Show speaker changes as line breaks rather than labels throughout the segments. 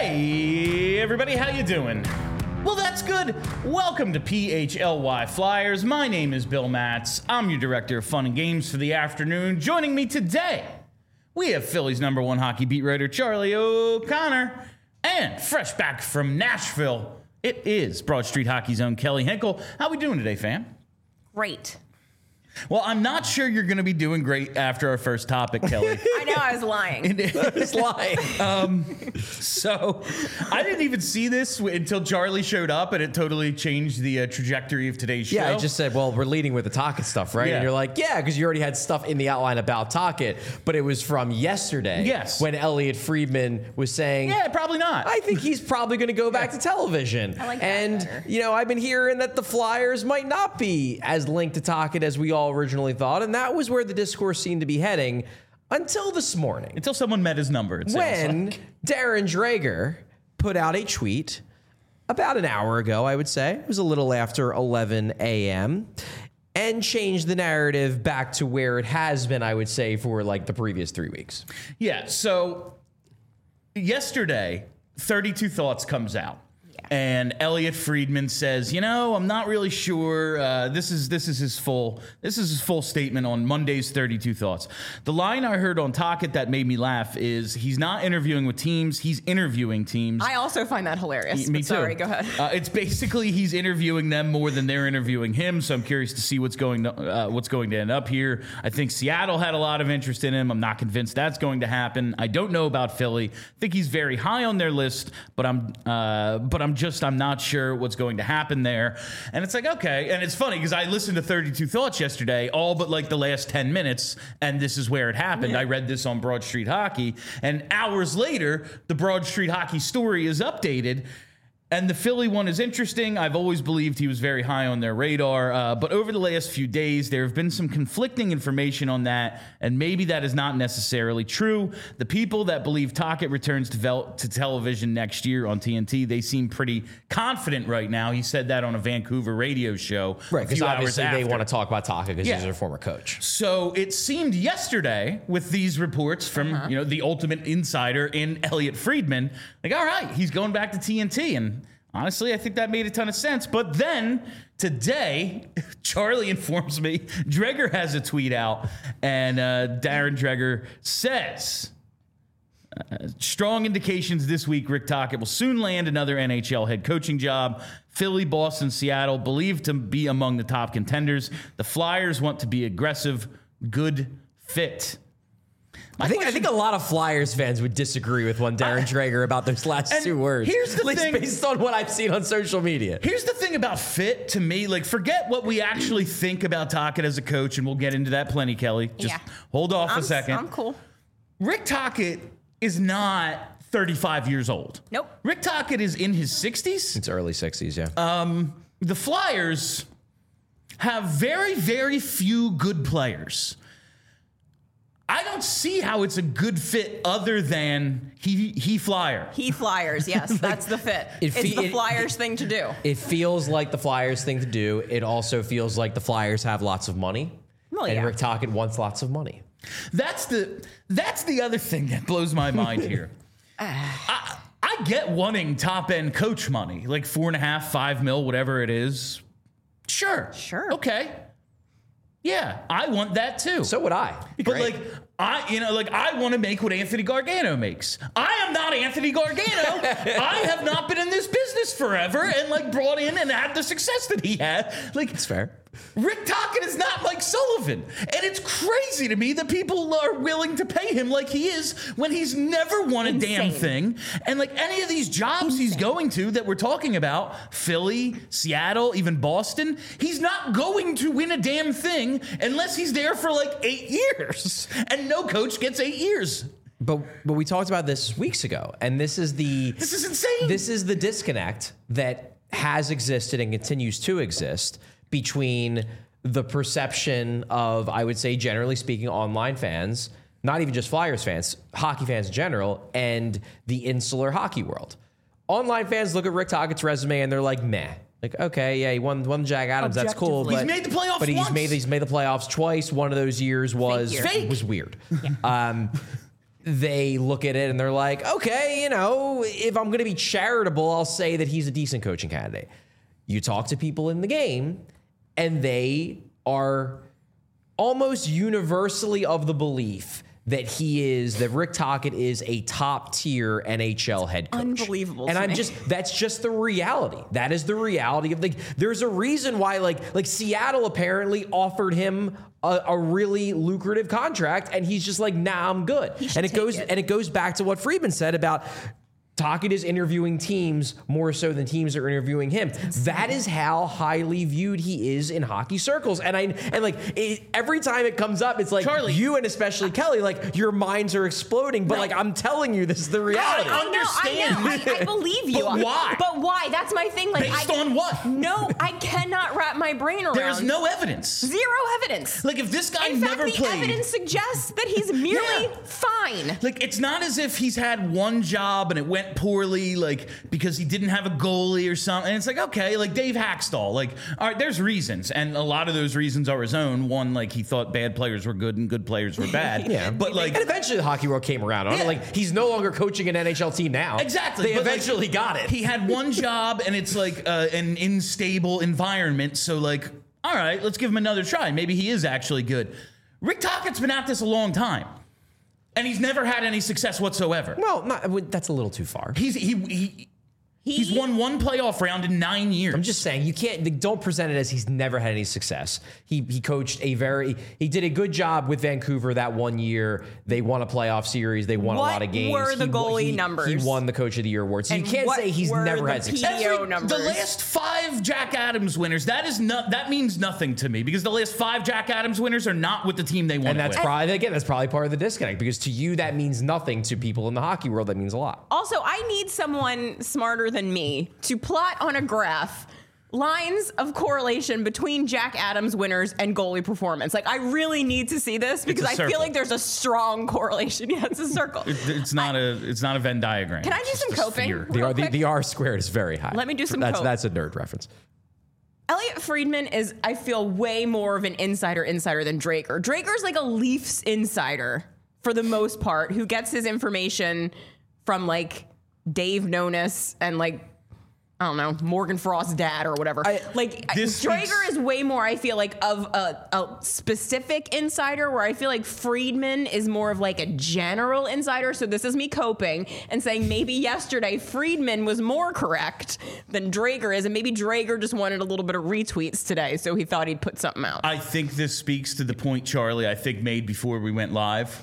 Hey, everybody, how you doing? Well, that's good. Welcome to PHLY Flyers. My name is Bill Matz. I'm your director of fun and games for the afternoon. Joining me today, we have Philly's #1 hockey beat writer, Charlie O'Connor. And fresh back from Nashville, it is Broad Street Hockey's own Kelly Hinkle. How we doing today, fam?
Great.
Well, I'm not sure you're going to be doing great after our first topic, Kelly.
I know, I was lying.
I was lying. So I didn't even see this until Charlie showed up, and it totally changed the trajectory of today's show.
Yeah, I just said, well, we're leading with the Tocchet stuff, right?
Yeah.
And you're like, yeah, because you already had stuff in the outline about Tocchet, but it was from yesterday.
Yes.
When Elliot Friedman was saying,
Yeah, probably not.
I think he's probably going to go back to television.
I like that
and,
better.
you know, I've been hearing that the Flyers might not be as linked to Tocchet as we all originally thought, and that was where the discourse seemed to be heading until this morning.
Until someone met his number. It sounds
When
like.
Darren Dreger put out a tweet about an hour ago, I would say. It was a little after 11 a.m. and changed the narrative back to where it has been, I would say, for like the previous 3 weeks.
Yeah, so yesterday, 32 Thoughts comes out. And Elliot Friedman says, you know, I'm not really sure. This is his full statement on Monday's 32 Thoughts. The line I heard on Tocchet that made me laugh is he's not interviewing with teams, he's interviewing teams.
I also find that hilarious.
Me
but
too.
Sorry, go ahead.
It's basically he's interviewing them more than they're interviewing him. So I'm curious to see what's going to end up here. I think Seattle had a lot of interest in him. I'm not convinced that's going to happen. I don't know about Philly. I think he's very high on their list, but I'm not sure what's going to happen there. And it's like, okay. And it's funny because I listened to 32 Thoughts yesterday, all but like the last 10 minutes, and this is where it happened. I read this on Broad Street Hockey, and hours later, the Broad Street Hockey story is updated. And the Philly one is interesting. I've always believed he was very high on their radar. But over the last few days, there have been some conflicting information on that, and maybe that is not necessarily true. The people that believe Tocchet returns to television next year on TNT, they seem pretty confident right now. He said that on a Vancouver radio show.
Right, because obviously they want to
to
talk about Tocchet because
Yeah.
he's their former coach.
So it seemed yesterday with these reports from the ultimate insider in Elliot Friedman, like, all right, he's going back to TNT. And honestly, I think that made a ton of sense. But then today, Charlie informs me Dreger has a tweet out, and Darren Dreger says, strong indications this week Rick Tocchet will soon land another NHL head coaching job. Philly, Boston, Seattle believed to be among the top contenders. The Flyers want to be aggressive, good fit.
I think a lot of Flyers fans would disagree with one Darren Dreger about those last
and
two words.
here's the
at least
thing-
based on what I've seen on social media.
Here's the thing about fit to me. Like, forget what we actually think about Tocchet as a coach, and we'll get into that plenty, Kelly. Just hold off a second.
I'm cool.
Rick Tocchet is not 35 years old.
Nope.
Rick Tocchet is in his 60s.
It's early 60s, yeah.
The Flyers have very, very few good players. I don't see how it's a good fit other than he Flyer.
He Flyers, yes, that's the fit. It's the Flyers thing to do.
It feels like the Flyers thing to do. It also feels like the Flyers have lots of money.
Well,
and
yeah.
Rick Tocchet wants lots of money.
That's the other thing that blows my mind here. I get wanting top end coach money, like $4.5, $5 million, whatever it is. Sure. Okay. Yeah, I want that too.
So would I.
But I want to make what Anthony Gargano makes. I am not Anthony Gargano. I have not been in this business forever and brought in and had the success that he had.
It's fair.
Rick Tocchet is not Mike Sullivan. And it's crazy to me that people are willing to pay him like he is when he's never won a damn thing. And any of these jobs he's going to that we're talking about, Philly, Seattle, even Boston, he's not going to win a damn thing unless he's there for 8 years. And no coach gets 8 years.
But we talked about this weeks ago, and this is
insane.
This is the disconnect that has existed and continues to exist between the perception of, I would say, generally speaking, online fans, not even just Flyers fans, hockey fans in general, and the insular hockey world. Online fans look at Rick Tocchet's resume and they're like, meh. Okay, yeah, he won Jack Adams. That's cool.
He's made the playoffs
but he's
once.
made the playoffs twice. One of those years was
Fake.
was weird. they look at it and they're like, okay, if I'm going to be charitable, I'll say that he's a decent coaching candidate. You talk to people in the game, and they are almost universally of the belief that Rick Tocchet is a top tier NHL head coach.
Unbelievable.
And that's just the reality. That is the reality of there's a reason why like Seattle apparently offered him a really lucrative contract, and he's just like, nah, I'm good. And it goes back to what Friedman said about Tocchet is interviewing teams more so than teams are interviewing him. That is how highly viewed he is in hockey circles. And every time it comes up, it's like,
Charlie,
you and especially Kelly, like your minds are exploding. But like I'm telling you, this is the reality.
I know. I believe you.
But why?
But why? That's my thing. Like,
based on what?
No, I cannot wrap my brain around.
There is no evidence.
Zero evidence.
Like if this guy
in
never
fact,
played,
the evidence suggests that he's merely fine.
Like it's not as if he's had one job and it went poorly, like because he didn't have a goalie or something. And it's like, okay, like Dave Haxtell, like, all right, there's reasons, and a lot of those reasons are his own. One, like he thought bad players were good and good players were bad.
Yeah,
but like,
and eventually the hockey world came around on it. Like he's no longer coaching an NHL team now.
Exactly,
they eventually got it.
He had one job, and it's like an unstable environment. So like, all right, let's give him another try. Maybe he is actually good. Rick Tocchet's been at this a long time. And he's never had any success whatsoever.
Well, that's a little too far.
He's won one playoff round in 9 years.
I'm just saying, don't present it as he's never had any success. He coached he did a good job with Vancouver that 1 year. They won a playoff series. They won a lot of games.
What were the goalie numbers?
He won the Coach of the Year award. So you can't say he's never had success.
The last 5 Jack Adams winners, that means nothing to me, because the last 5 Jack Adams winners are not with the team they won.
And that's probably part of the disconnect, because to you that means nothing. To people in the hockey world, that means a lot.
Also, I need someone smarter than me to plot on a graph lines of correlation between Jack Adams winners and goalie performance. Like, I really need to see this, because I feel like there's a strong correlation. Yeah, it's a circle.
It's not a Venn diagram.
Can I do some coping?
The R squared is very high.
Let me do some cope.
That's a nerd reference.
Elliot Friedman is, I feel, way more of an insider than Drager. Drager's like a Leafs insider for the most part, who gets his information from like Dave Nonis and like, I don't know, Morgan Frost's dad or whatever. Drager is way more, I feel like, of a specific insider, where I feel like Friedman is more of like a general insider. So this is me coping and saying maybe yesterday Friedman was more correct than Drager is, and maybe Drager just wanted a little bit of retweets today, so he thought he'd put something out.
I think this speaks to the point Charlie, I think, made before we went live.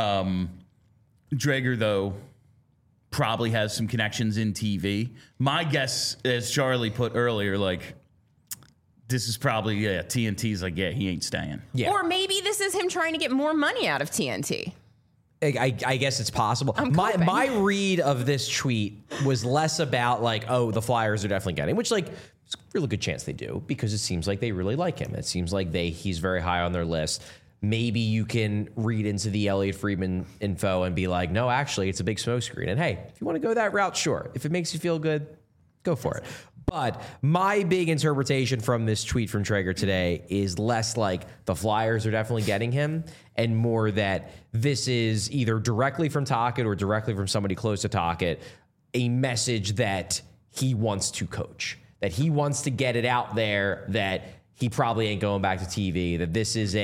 Drager, though, probably has some connections in TV. My guess, as Charlie put earlier, like, this is probably, TNT's like, he ain't staying.
Yeah.
Or maybe this is him trying to get more money out of TNT.
I guess it's possible. My read of this tweet was less about like, oh, the Flyers are definitely getting, which like, it's a really good chance they do, because it seems like they really like him. It seems like he's very high on their list. Maybe you can read into the Elliot Friedman info and be like, no, actually, it's a big smokescreen. And hey, if you want to go that route, sure. If it makes you feel good, go for it. But my big interpretation from this tweet from Drager today is less like the Flyers are definitely getting him, and more that this is either directly from Tocchet or directly from somebody close to Tocchet, a message that he wants to coach, that he wants to get it out there that he probably ain't going back to TV, that this is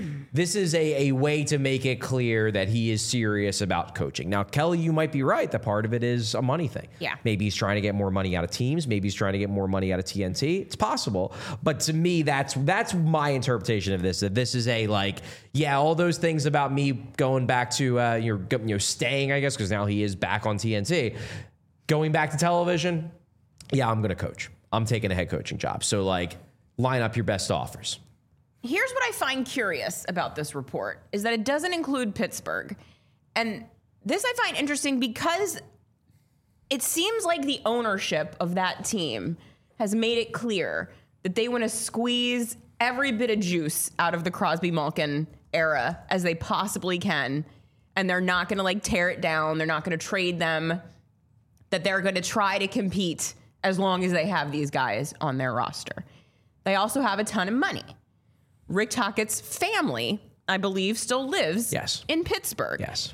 a way to make it clear that he is serious about coaching. Now, Kelly, you might be right that part of it is a money thing.
Yeah.
Maybe he's trying to get more money out of teams. Maybe he's trying to get more money out of TNT. It's possible. But to me, that's my interpretation of this, that this is a like, yeah, all those things about me going back to staying, I guess, because now he is back on TNT. Going back to television, yeah, I'm going to coach. I'm taking a head coaching job. So like, line up your best offers.
Here's what I find curious about this report, is that it doesn't include Pittsburgh. And this I find interesting because it seems like the ownership of that team has made it clear that they want to squeeze every bit of juice out of the Crosby-Malkin era as they possibly can. And they're not going to like tear it down. They're not going to trade them. That they're going to try to compete as long as they have these guys on their roster. They also have a ton of money. Rick Tocchet's family, I believe, still lives in Pittsburgh.
Yes.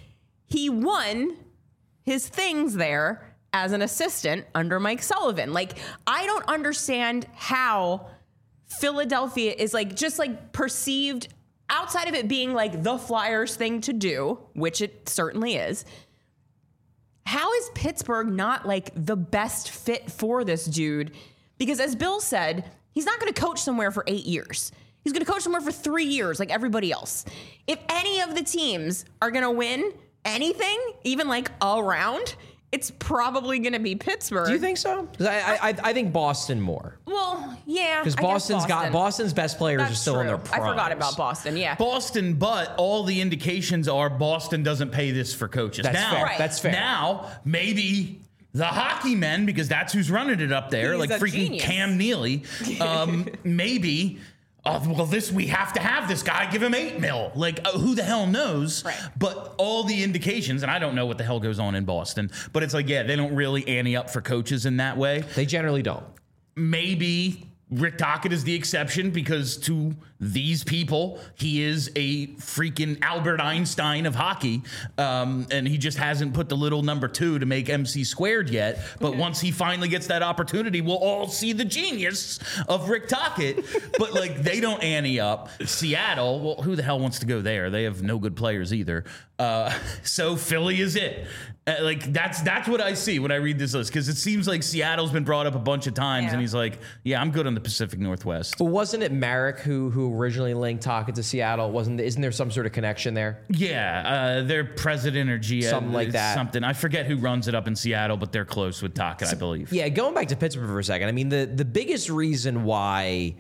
he won his things there as an assistant under Mike Sullivan. Like, I don't understand how Philadelphia is like just like perceived outside of it being like the Flyers thing to do, which it certainly is. How is Pittsburgh not like the best fit for this dude? Because as Bill said, he's not going to coach somewhere for 8 years. He's going to coach somewhere for 3 years like everybody else. If any of the teams are going to win anything, even like a round, it's probably going to be Pittsburgh.
Do you think so? 'Cause I think Boston more.
Well, yeah.
Because Boston's best players are still in their primes.
I forgot about Boston, yeah.
Boston, but all the indications are Boston doesn't pay this for coaches.
That's
now,
fair.
Right.
That's fair.
Now, maybe the hockey men, because that's who's running it up there,
He's
like
a
freaking
genius.
Cam Neely, maybe... we have to have this guy, give him $8 million. Like, who the hell knows?
Right.
But all the indications, and I don't know what the hell goes on in Boston, but it's like, yeah, they don't really ante up for coaches in that way.
They generally don't.
Maybe Rick Tocchet is the exception because to these people, he is a freaking Albert Einstein of hockey. And he just hasn't put the little number 2 to make MC squared yet. But once he finally gets that opportunity, we'll all see the genius of Rick Tocchet. But like, they don't ante up. Seattle, well, who the hell wants to go there? They have no good players either. So Philly is it. Like that's what I see when I read this list, because it seems like Seattle's been brought up a bunch of times,
Yeah.
and he's like, "Yeah, I'm good on the Pacific Northwest."
But wasn't it Merrick who originally linked Tocchet to Seattle? Isn't there some sort of connection there?
Yeah, their president or GM,
Something like that.
Something I forget who runs it up in Seattle, but they're close with Tocchet, I believe.
Yeah, going back to Pittsburgh for a second. I mean, the biggest reason why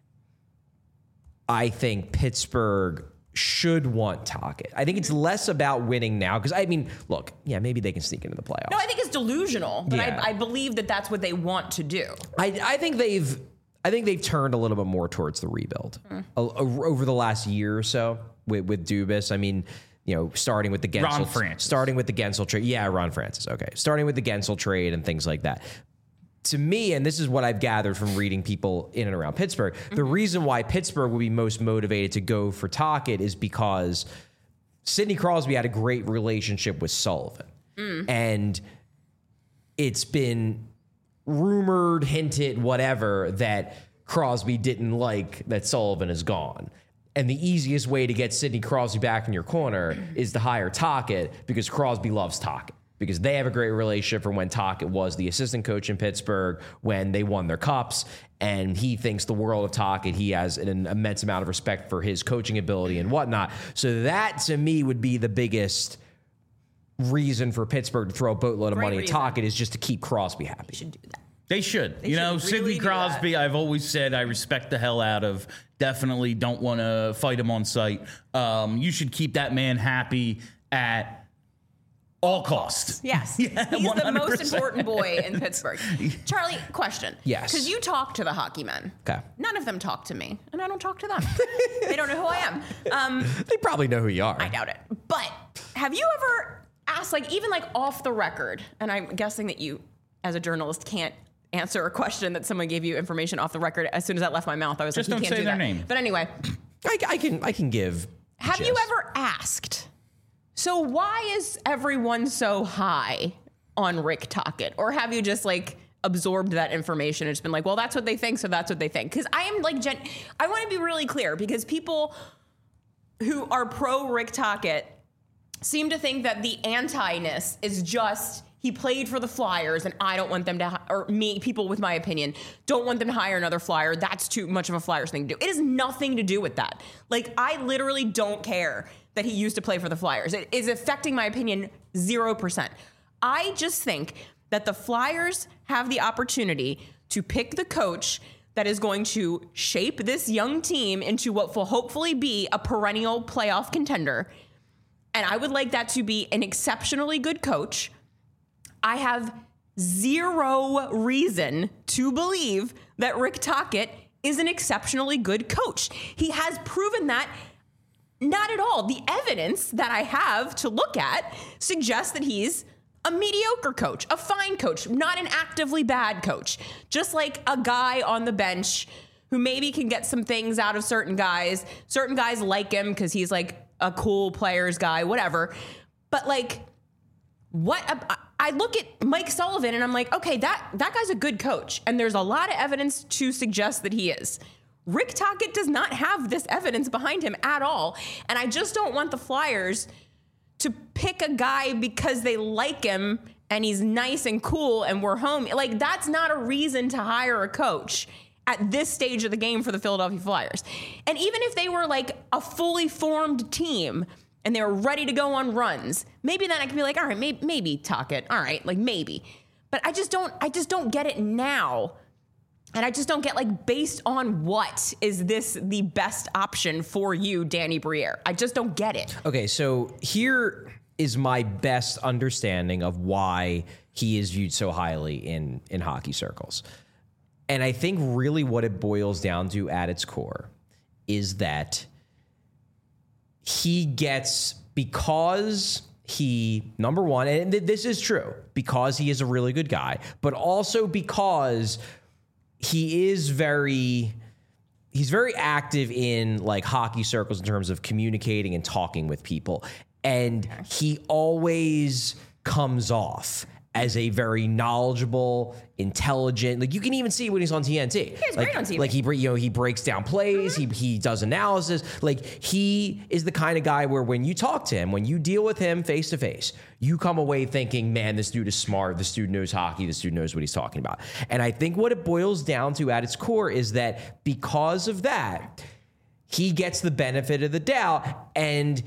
I think Pittsburgh should want Tocchet, I think it's less about winning now, because I mean, look, yeah, maybe they can sneak into the playoffs.
No, I think it's delusional, but
Yeah.
I believe that that's what they want to do.
I think they've turned a little bit more towards the rebuild over the last year or so with Dubas. I mean, starting with the Gensel, trade. Yeah, Ron Francis. Okay, starting with the Gensel trade and things like that. To me, and this is what I've gathered from reading people in and around Pittsburgh, the reason why Pittsburgh would be most motivated to go for Tocchet is because Sidney Crosby had a great relationship with Sullivan. And it's been rumored, hinted, whatever, that Crosby didn't like that Sullivan is gone. And the easiest way to get Sidney Crosby back in your corner is to hire Tocchet, because Crosby loves Tocchet, because they have a great relationship from when Tocchet was the assistant coach in Pittsburgh when they won their cups. And he thinks the world of Tocchet. He has an immense amount of respect for his coaching ability and whatnot. So that, to me, would be the biggest reason for Pittsburgh to throw a boatload of money at Tocchet, is just to keep Crosby happy.
Should do that.
They should.
They should
Sidney
really do
Crosby,
that.
I've always said I respect the hell out of. Definitely don't want to fight him on sight. You should keep that man happy at all costs.
Yes.
Yeah,
He's the most
100%.
important boy in Pittsburgh. Charlie, question.
Yes.
Because you talk to the hockey men.
Okay.
None of them talk to me, and I don't talk to them. They don't know who I am.
They probably know who you are.
I doubt it. But have you ever asked, like, even like off the record, and I'm guessing that you, as a journalist, can't answer a question that someone gave you information off the record. As soon as that left my mouth, I was
Just
like, you
don't
can't
say
do
their
that.
name.
But anyway,
I can give.
have you ever asked, so why is everyone so high on Rick Tocchet? Or have you just like absorbed that information and just been like, well, that's what they think, so that's what they think? Because I am like, I want to be really clear, because people who are pro Rick Tocchet seem to think that the anti-ness is just he played for the Flyers and I don't want them to, or me, people with my opinion, don't want them to hire another Flyer. That's too much of a Flyers thing to do. It has nothing to do with that. Like, I literally don't care that he used to play for the Flyers. It is affecting my opinion 0%. I just think that the Flyers have the opportunity to pick the coach that is going to shape this young team into what will hopefully be a perennial playoff contender. And I would like that to be an exceptionally good coach. I have zero reason to believe that Rick Tocchet is an exceptionally good coach. He has proven that not at all. The evidence that I have to look at suggests that he's a mediocre coach, a fine coach, not an actively bad coach, just like a guy on the bench who maybe can get some things out of certain guys. Certain guys like him because he's like a cool players guy, whatever. But like, I look at Mike Sullivan and I'm like, okay, that guy's a good coach. And there's a lot of evidence to suggest that he is. Rick Tocchet does not have this evidence behind him at all. And I just don't want the Flyers to pick a guy because they like him and he's nice and cool and we're home. Like, that's not a reason to hire a coach at this stage of the game for the Philadelphia Flyers. And even if they were like a fully formed team and they were ready to go on runs, maybe then I could be like, all right, maybe Tocchet. All right, like maybe. But I just don't get it now. And I just don't get, like, based on what is this the best option for you, Danny Briere? I just don't get it.
Okay, so here is my best understanding of why he is viewed so highly in hockey circles. And I think really what it boils down to at its core is that he gets, because he, number one, and this is true, because he is a really good guy, but also because he's very active in like hockey circles in terms of communicating and talking with people. And he always comes off as a very knowledgeable, intelligent, like you can even see when he's on TNT.
He's great on TV.
Like he breaks down plays, he does analysis. Like he is the kind of guy where when you talk to him, when you deal with him face to face, you come away thinking, man, this dude is smart. This dude knows hockey. This dude knows what he's talking about. And I think what it boils down to at its core is that because of that, he gets the benefit of the doubt, and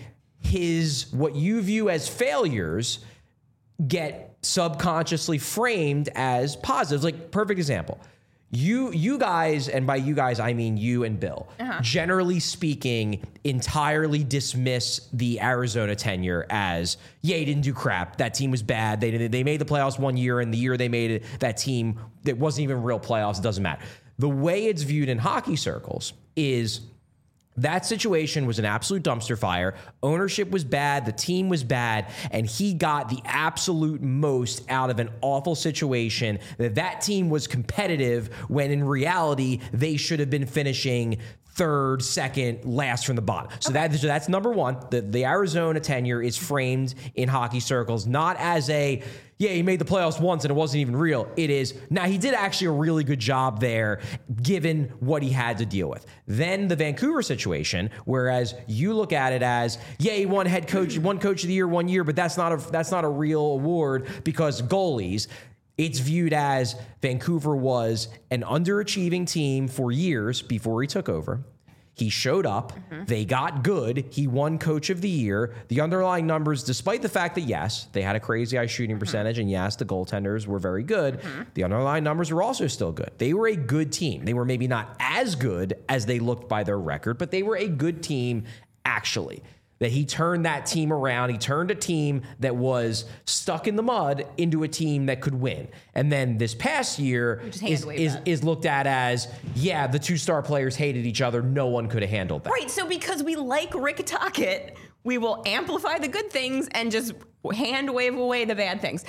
what you view as failures get subconsciously framed as positives. Like, perfect example. You guys, and by you guys, I mean you and Bill, generally speaking, entirely dismiss the Arizona tenure as, yeah, he didn't do crap. That team was bad. They made the playoffs one year, and the year they made it, that team, that wasn't even real playoffs. It doesn't matter. The way it's viewed in hockey circles is that situation was an absolute dumpster fire. Ownership was bad. The team was bad. And he got the absolute most out of an awful situation. That team was competitive when in reality, they should have been finishing third, second, last from the bottom. So that's number one. The Arizona tenure is framed in hockey circles not as a, yeah, he made the playoffs once and it wasn't even real. It is, now he did actually a really good job there given what he had to deal with. Then the Vancouver situation, whereas you look at it as, yeah, he won coach of the year 1 year, but that's not a real award because goalies. It's viewed as Vancouver was an underachieving team for years before he took over. He showed up. They got good. He won Coach of the Year. The underlying numbers, despite the fact that, yes, they had a crazy high shooting percentage, and yes, the goaltenders were very good, the underlying numbers were also still good. They were a good team. They were maybe not as good as they looked by their record, but they were a good team, actually. That he turned that team around. He turned a team that was stuck in the mud into a team that could win. And then this past year is looked at as, yeah, the two-star players hated each other. No one could have handled that.
Right, so because we like Rick Tocchet, we will amplify the good things and just hand wave away the bad things.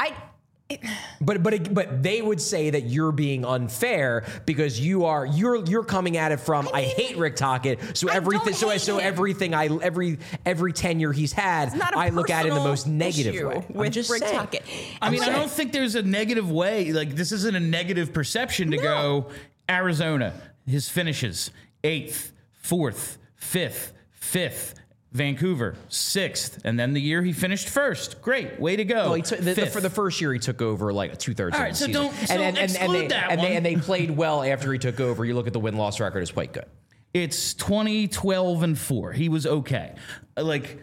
But they would say that you're being unfair because you're coming at it from I hate Rick Tocchet, so every tenure he's had, I look at it in the most negative way.
With Rick Tocchet.
I don't think there's a negative way. Like, this isn't a negative perception to go Arizona. His finishes 8th, 4th, 5th, 5th. Vancouver 6th, and then the year he finished 1st. Great, way to go.
Well, for the first year, he took over like 2/3 of the season.
And
they played well after he took over. You look at the win-loss record; it's quite good.
It's 20-12-4. He was okay. A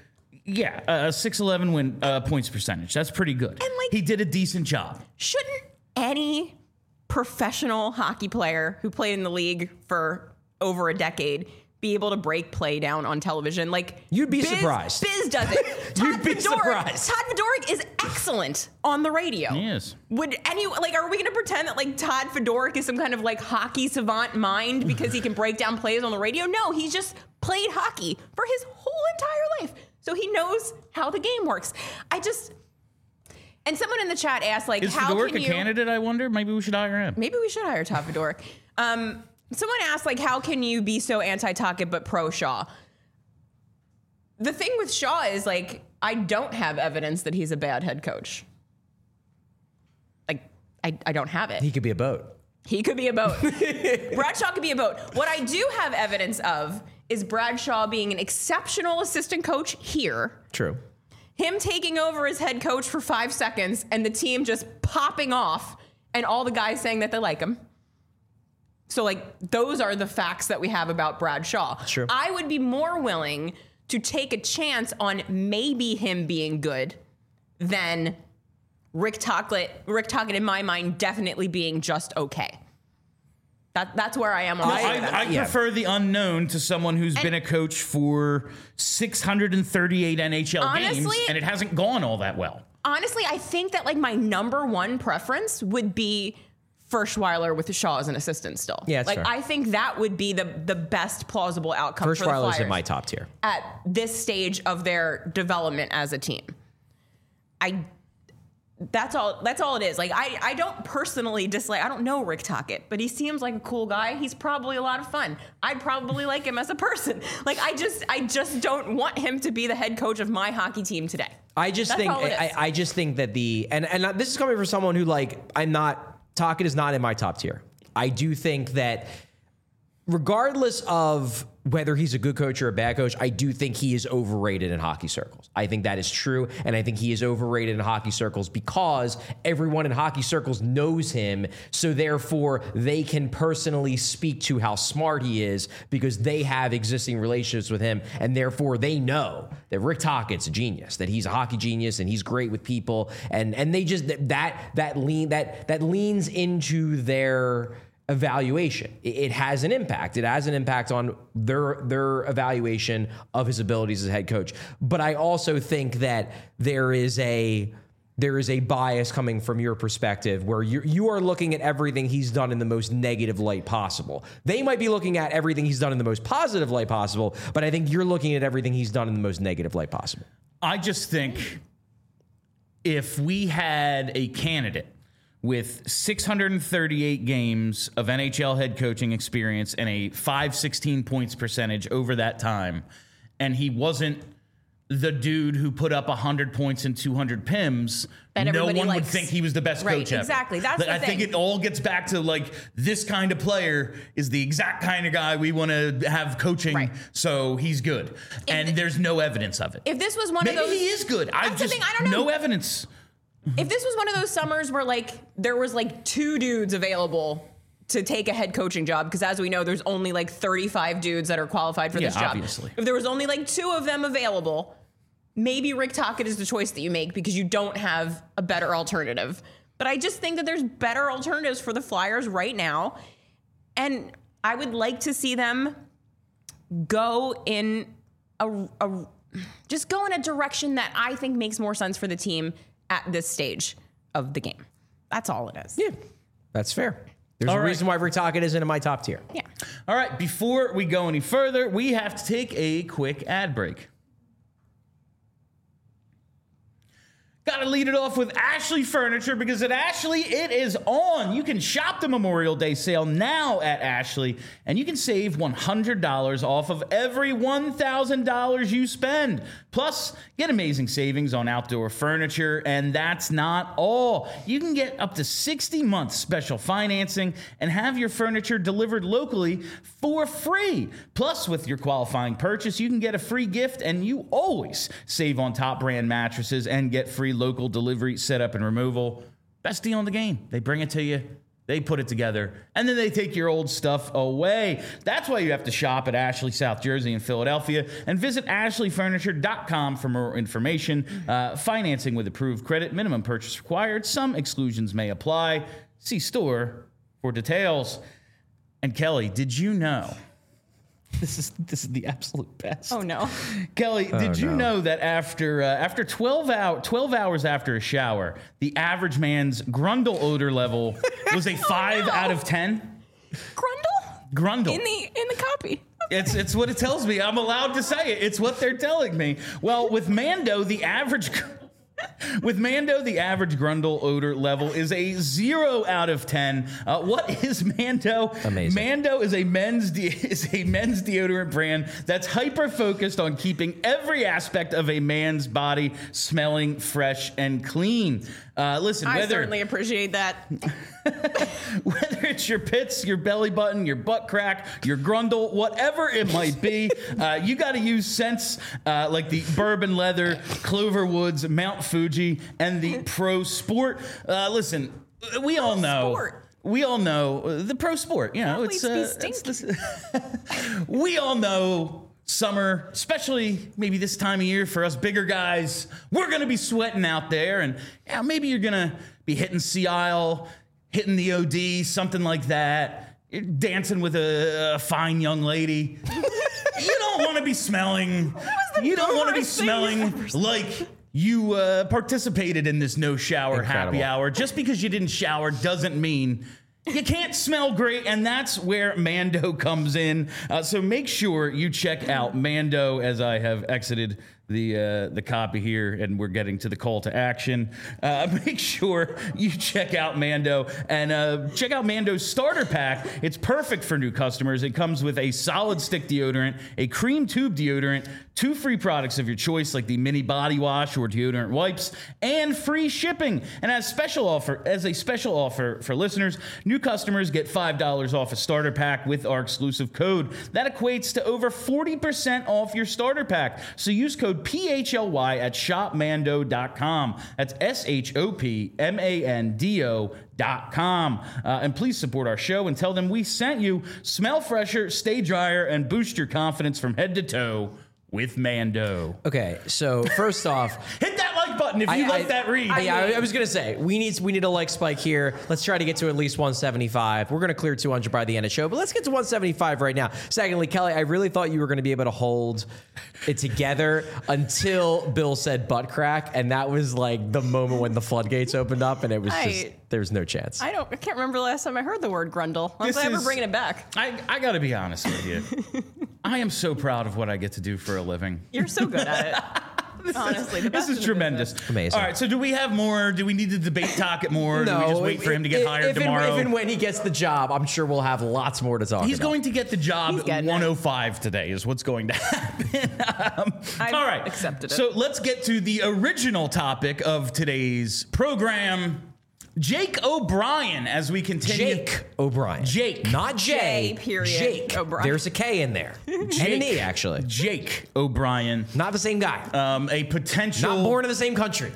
611 win points percentage. That's pretty good. And he did a decent job.
Shouldn't any professional hockey player who played in the league for over a decade be able to break play down on television? Like,
you'd be surprised.
Biz does it.
You'd be surprised.
Todd Fedoruk is excellent on the radio.
Yes.
Are we going to pretend that like Todd Fedoruk is some kind of like hockey savant mind because he can break down plays on the radio? No, he's just played hockey for his whole entire life. So he knows how the game works. And someone in the chat asked, like,
is Fedoruk a candidate, I wonder? Maybe we should hire him.
Maybe we should hire Todd Fedoruk. Someone asked, like, how can you be so anti-Tocchet but pro Shaw? The thing with Shaw is, like, I don't have evidence that he's a bad head coach. Like, I don't have it.
He could be a boat.
He could be a boat. Bradshaw could be a boat. What I do have evidence of is Bradshaw being an exceptional assistant coach here.
True.
Him taking over as head coach for 5 seconds and the team just popping off and all the guys saying that they like him. So, like, those are the facts that we have about Bradshaw.
True.
I would be more willing to take a chance on maybe him being good than Rick Tocchet, in my mind, definitely being just okay. That's where I am on that.
I prefer the unknown to someone who's been a coach for 638 NHL games, and it hasn't gone all that well.
Honestly, I think that like my number one preference would be Ferschweiler with Shaw as an assistant still.
Yeah, that's
like
fair.
I think that would be the best plausible outcome for the Flyers.
Ferschweiler's in my top tier.
At this stage of their development as a team. That's all it is. Like I don't personally dislike, I don't know Rick Tocchet, but he seems like a cool guy. He's probably a lot of fun. I'd probably like him as a person. Like I just don't want him to be the head coach of my hockey team today.
I just think that and this is coming from someone who Tocchet is not in my top tier. I do think that regardless of whether he's a good coach or a bad coach, I do think he is overrated in hockey circles. I think that is true, and I think he is overrated in hockey circles because everyone in hockey circles knows him, so therefore they can personally speak to how smart he is because they have existing relationships with him, and therefore they know that Rick Tocchet's a genius, that he's a hockey genius, and he's great with people, and they just that leans into their evaluation. It has an impact. It has an impact on their evaluation of his abilities as a head coach. But I also think that there is a bias coming from your perspective where you are looking at everything he's done in the most negative light possible. They might be looking at everything he's done in the most positive light possible, but I think you're looking at everything he's done in the most negative light possible. I
just think if we had a candidate with 638 games of NHL head coaching experience and a .516 points percentage over that time, and he wasn't the dude who put up 100 points and 200 PIMs, no one would think he was the best coach ever.
Exactly. That's the thing.
I think it all gets back to like this kind of player is the exact kind of guy we want to have coaching, so he's good. And there's no evidence of it.
If this was one of those,
maybe he is good. I don't know. No evidence.
If this was one of those summers where like there was like 2 dudes available to take a head coaching job, because as we know, there's only like 35 dudes that are qualified for this job.
Obviously.
If there was only like 2 of them available, maybe Rick Tocchet is the choice that you make because you don't have a better alternative. But I just think that there's better alternatives for the Flyers right now. And I would like to see them go in just go in a direction that I think makes more sense for the team at this stage of the game. That's all it is.
Yeah, that's fair. There's a reason why Rick Tocchet isn't in my top tier.
Yeah.
All right, before we go any further, we have to take a quick ad break. Got to lead it off with Ashley Furniture, because at Ashley, it is on. You can shop the Memorial Day sale now at Ashley, and you can save $100 off of every $1,000 you spend. Plus, get amazing savings on outdoor furniture, and that's not all. You can get up to 60 months special financing and have your furniture delivered locally for free. Plus, with your qualifying purchase, you can get a free gift, and you always save on top brand mattresses and get free local delivery, setup, and removal. Best deal in the game. They bring it to you, they put it together, and then they take your old stuff away. That's why you have to shop at Ashley, South Jersey, and Philadelphia, and visit ashleyfurniture.com for more information. Financing with approved credit, minimum purchase required. Some exclusions may apply. See store for details. And Kelly, did you know? This is the absolute best.
Oh no,
Kelly, did you know that after 12 hours after a shower, the average man's Grundle odor level was a 5 out of 10? Grundle
in the copy.
It's what it tells me. I'm allowed to say it. It's what they're telling me. Well, with Mando, the average With Mando, the average Grundle odor level is a 0 out of 10. What is Mando?
Amazing.
Mando is a men's deodorant brand that's hyper focused on keeping every aspect of a man's body smelling fresh and clean. Listen,
I
whether
certainly appreciate that.
whether it's your pits, your belly button, your butt crack, your grundle, whatever it might be, you got to use scents like the Bourbon Leather, Clover Woods, Mount Fuji, and the Pro Sport. Listen, we all know.
Sport.
We all know the Pro Sport. You know, we all know summer, especially maybe this time of year for us bigger guys. We're gonna be sweating out there, and maybe you're gonna be hitting Sea Isle, hitting the OD, something like that. You're dancing with a fine young lady. You don't want to be smelling. You don't want to be smelling like you participated in this no shower happy hour. Just because you didn't shower doesn't mean you can't smell great, and that's where Mando comes in. So make sure you check out Mando as I have exited the copy here, and we're getting to the call to action. Make sure you check out Mando, and check out Mando's starter pack. It's perfect for new customers. It comes with a solid stick deodorant, a cream tube deodorant, 2 free products of your choice like the mini body wash or deodorant wipes, and free shipping. And as a special offer for listeners, new customers get $5 off a starter pack with our exclusive code. That equates to over 40% off your starter pack. So use code PHLY at shopmando.com. That's SHOPMANDO.com. And please support our show and tell them we sent you. Smell fresher, stay drier, and boost your confidence from head to toe with Mando.
Okay, so first off,
hit that like button if you like that read.
I was gonna say we need a like spike here. Let's try to get to at least 175. We're gonna clear 200 by the end of the show, but let's get to 175 right now. Secondly, Kelly, I really thought you were gonna be able to hold it together until Bill said butt crack, and that was like the moment when the floodgates opened up, and it was just there's no chance.
I can't remember the last time I heard the word grundle. I'm glad we're bringing it back.
I gotta be honest with you. I am so proud of what I get to do for a living.
You're so good at it. Honestly,
this is tremendous.
Amazing.
All right, so do we have more? Do we need to debate talk it more?
No,
do we just wait for him to get hired tomorrow?
If and when he gets the job, I'm sure we'll have lots more to talk about.
He's going to get the job at 105 today is what's going to happen. All right.
Accepted it.
So let's get to the original topic of today's program. Jake O'Brien, as we continue.
Jake O'Brien.
Jake.
Not Jay.
Period.
Jake.
O'Brien.
There's a K in there. And an E, actually.
Jake O'Brien.
Not the same guy.
A potential...
Not born in the same country.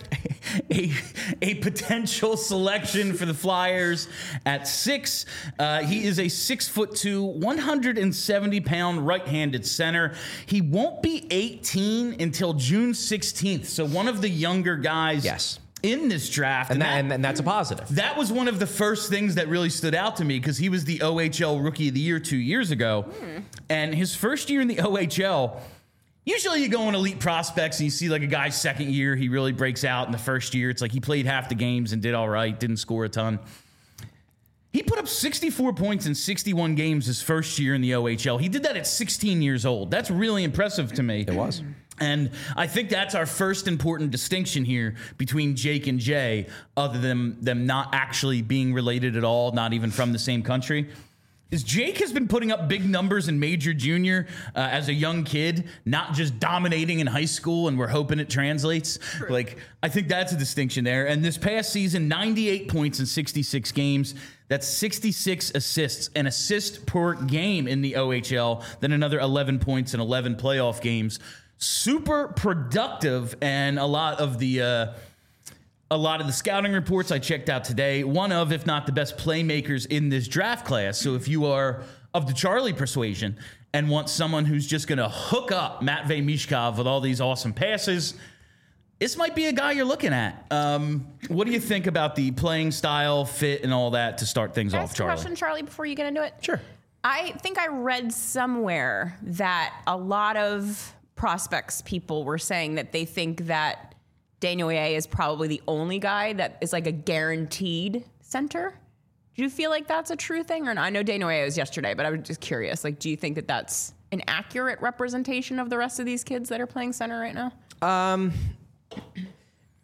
A potential selection for the Flyers at 6. He is a 6'2", 170-pound right-handed center. He won't be 18 until June 16th. So one of the younger guys...
Yes.
In this draft.
And that's a positive.
That was one of the first things that really stood out to me because he was the OHL Rookie of the Year 2 years ago. And his first year in the OHL, usually you go on elite prospects and you see like a guy's second year, he really breaks out in the first year. It's like he played half the games and did all right, didn't score a ton. He put up 64 points in 61 games his first year in the OHL. He did that at 16 years old. That's really impressive to me.
It was.
And I think that's our first important distinction here between Jake and Jay, other than them not actually being related at all, not even from the same country, is Jake has been putting up big numbers in major junior as a young kid, not just dominating in high school, and we're hoping it translates. True. Like, I think that's a distinction there. And this past season, 98 points in 66 games. That's 66 assists, an assist per game in the OHL, then another 11 points in 11 playoff games. Super productive, and a lot of the scouting reports I checked out today, one of, if not the best playmakers in this draft class. So if you are of the Charlie persuasion and want someone who's just going to hook up Matvei Mishkov with all these awesome passes, this might be a guy you're looking at. What do you think about the playing style, fit, and all that to start things off, Charlie?
Question, Charlie, before you get into it?
Sure.
I think I read somewhere that a lot of prospects people were saying that they think that Desnoyers is probably the only guy that is like a guaranteed center. Do you feel like that's a true thing? Or not? I know Desnoyers was yesterday, but I was just curious. Like, do you think that that's an accurate representation of the rest of these kids that are playing center right now?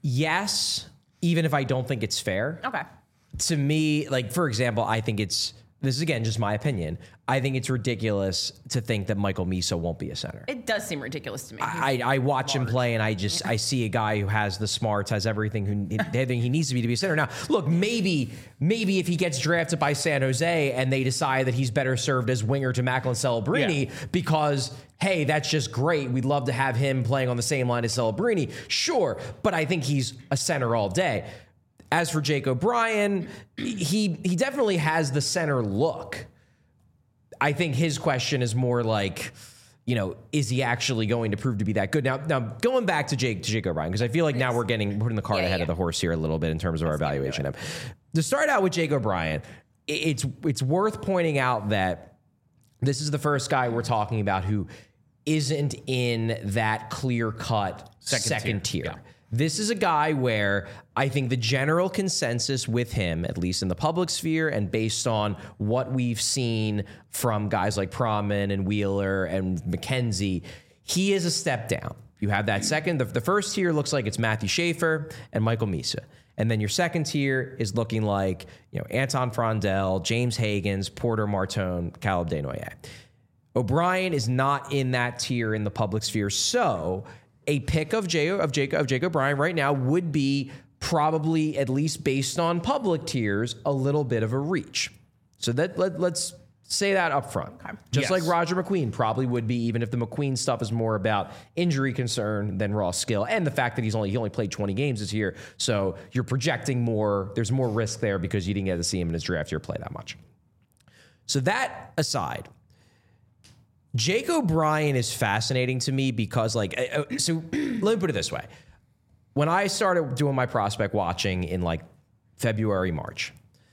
Yes, even if I don't think it's fair.
Okay.
To me, like, for example, I think this is, again, just my opinion. I think it's ridiculous to think that Michael Misa won't be a center.
It does seem ridiculous to me.
I watch him play, and I see a guy who has the smarts, has everything he needs to be a center. Now, look, maybe if he gets drafted by San Jose and they decide that he's better served as winger to Macklin Celebrini because, hey, that's just great. We'd love to have him playing on the same line as Celebrini. Sure, but I think he's a center all day. As for Jake O'Brien, he definitely has the center look. I think his question is more like, is he actually going to prove to be that good? Now going back to Jake O'Brien, because I feel like now we're putting the cart ahead of the horse here a little bit in terms of our evaluation of him. To start out with Jake O'Brien, it's worth pointing out that this is the first guy we're talking about who isn't in that clear-cut second tier. Yeah. This is a guy where I think the general consensus with him, at least in the public sphere and based on what we've seen from guys like Proman and Wheeler and McKenzie, he is a step down. You have that second. The first tier looks like it's Matthew Schaefer and Michael Misa. And then your second tier is looking like Anton Frondell, James Hagans, Porter Martone, Caleb Desnoyers. O'Brien is not in that tier in the public sphere, so a pick of Jake O'Brien right now would be probably, at least based on public tiers, a little bit of a reach. So let's say that up front. Okay. Just like Roger McQueen probably would be, even if the McQueen stuff is more about injury concern than raw skill, and the fact that he only played 20 games this year. So you're projecting more. There's more risk there because you didn't get to see him in his draft year play that much. So that aside, Jake O'Brien is fascinating to me because, so let me put it this way. When I started doing my prospect watching in February, March,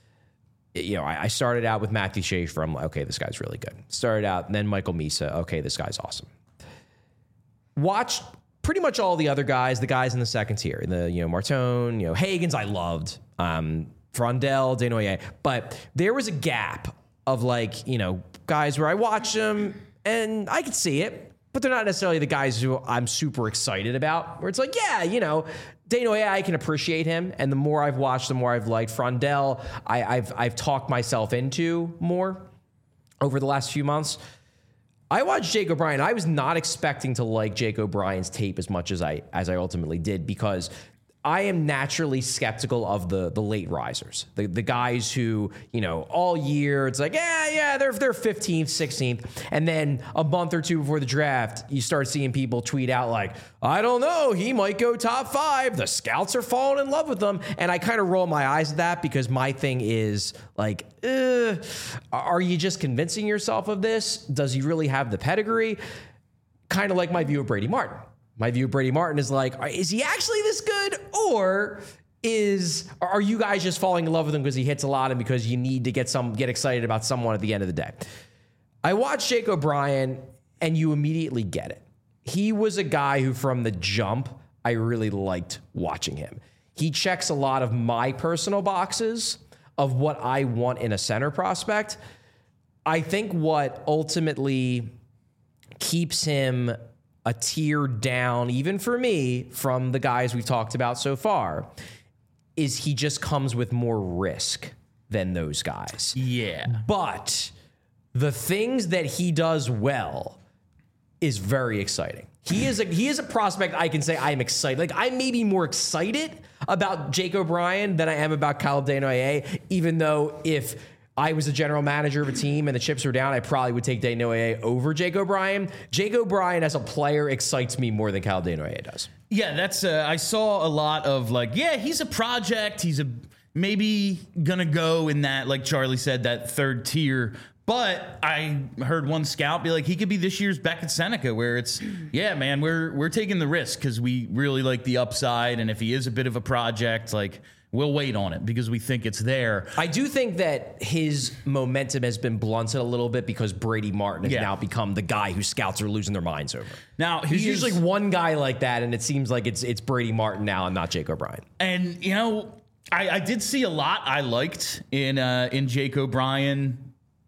I started out with Matthew Schaefer. I'm like, okay, this guy's really good. Started out, and then Michael Misa. Okay, this guy's awesome. Watched pretty much all the other guys, the guys in the second tier, Martone, Hagans, I loved, Frondell, Desnoyers, but there was a gap of guys where I watched them. And I could see it, but they're not necessarily the guys who I'm super excited about. Where it's Desnoyers, I can appreciate him. And the more I've watched, the more I've liked. Frondell, I've talked myself into more over the last few months. I watched Jake O'Brien. I was not expecting to like Jake O'Brien's tape as much as I ultimately did, because I am naturally skeptical of the late risers, the guys who, all year it's like, they're 15th, 16th. And then a month or two before the draft, you start seeing people tweet out like, I don't know, he might go top 5. The scouts are falling in love with him. And I kind of roll my eyes at that because my thing is are you just convincing yourself of this? Does he really have the pedigree? Kind of like my view of Brady Martin. My view of Brady Martin is is he actually this good? Or are you guys just falling in love with him because he hits a lot and because you need to get excited about someone at the end of the day? I watched Jake O'Brien and you immediately get it. He was a guy who from the jump, I really liked watching him. He checks a lot of my personal boxes of what I want in a center prospect. I think what ultimately keeps him a tier down, even for me, from the guys we've talked about so far, is he just comes with more risk than those guys. Yeah. But the things that he does well is very exciting. He is a prospect I can say I'm excited. I may be more excited about Jake O'Brien than I am about Caleb Desnoyers, even though if I was the general manager of a team and the chips were down, I probably would take Desnoyers over Jake O'Brien. Jake O'Brien as a player excites me more than Caleb Desnoyers does.
Yeah, that's I saw a lot of he's a project. He's maybe gonna go in that, like Charlie said, that third tier. But I heard one scout be like, he could be this year's Beckett Seneca, where it's, man, we're taking the risk because we really like the upside, and if he is a bit of a project, we'll wait on it because we think it's there.
I do think that his momentum has been blunted a little bit because Brady Martin has now become the guy who scouts are losing their minds over.
Now
he's usually one guy like that, and it seems like it's Brady Martin now and not Jake O'Brien.
And I did see a lot I liked in Jake O'Brien.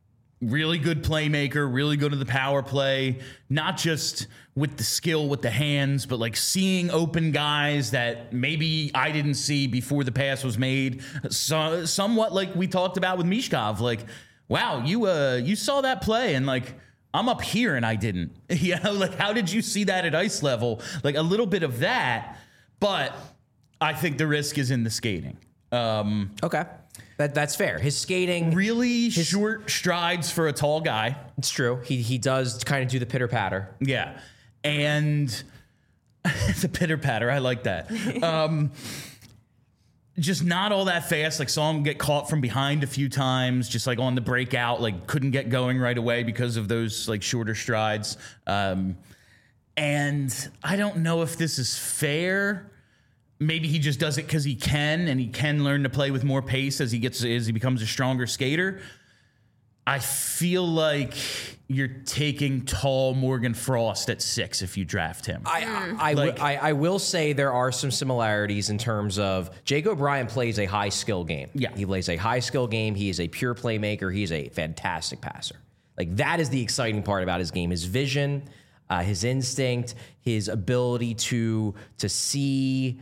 really good playmaker, really good at the power play, not just with the skill with the hands, but like seeing open guys that maybe I didn't see before the pass was made. So, somewhat like we talked about with Mishkov, like, wow, you saw that play and like, I'm up here and I didn't. You know, like, how did you see that at ice level? Like a little bit of that, but I think the risk is in the skating.
Okay. That's fair. His skating,
really short strides for a tall guy.
it's true. He does kind of do the pitter patter.
Yeah. And the pitter patter, I like that. Just not all that fast. Like, saw him get caught from behind a few times, just like on the breakout, like couldn't get going right away because of those like shorter strides. And I don't know if this is fair. Maybe he just does it because he can, and he can learn to play with more pace as he becomes a stronger skater. I feel like you're taking tall Morgan Frost at 6 if you draft him.
I will say there are some similarities in terms of Jake O'Brien plays a high skill game.
Yeah.
He plays a high skill game. He is a pure playmaker. He is a fantastic passer. Like, that is the exciting part about his game, his vision, his instinct, his ability to see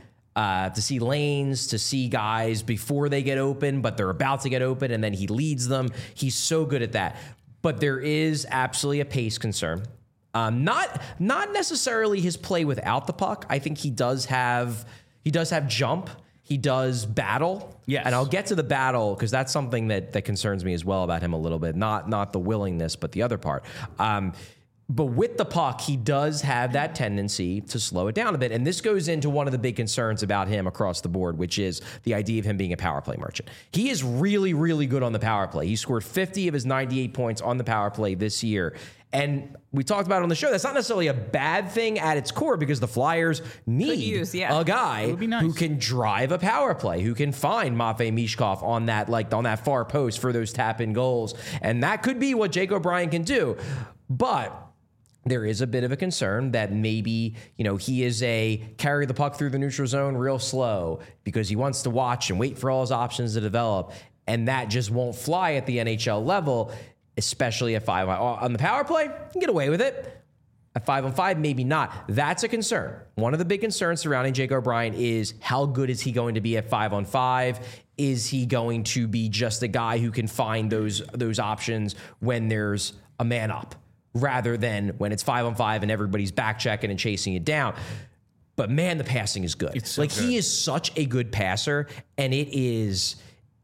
lanes, to see guys before they get open, but they're about to get open, and then he leads them. He's so good at that. But there is absolutely a pace concern. Not necessarily his play without the puck. I think he does have jump. He does battle.
Yes.
And I'll get to the battle because that's something that concerns me as well about him a little bit. Not the willingness, but the other part. But with the puck, he does have that tendency to slow it down a bit. And this goes into one of the big concerns about him across the board, which is the idea of him being a power play merchant. He is really, really good on the power play. He scored 50 of his 98 points on the power play this year. And we talked about it on the show. That's not necessarily a bad thing at its core because the Flyers need a guy who can drive a power play, who can find Matvei Mishkov on that far post for those tap-in goals. And that could be what Jake O'Brien can do. But there is a bit of a concern that maybe, he is a carry the puck through the neutral zone real slow because he wants to watch and wait for all his options to develop. And that just won't fly at the NHL level, especially at 5 on the power play. You can get away with it. At 5-on-5, maybe not. That's a concern. One of the big concerns surrounding Jake O'Brien is how good is he going to be at 5-on-5? Is he going to be just a guy who can find those options when there's a man up, rather than when it's 5-on-5 and everybody's back checking and chasing it down? But man, the passing is good.
So good.
He is such a good passer, and it is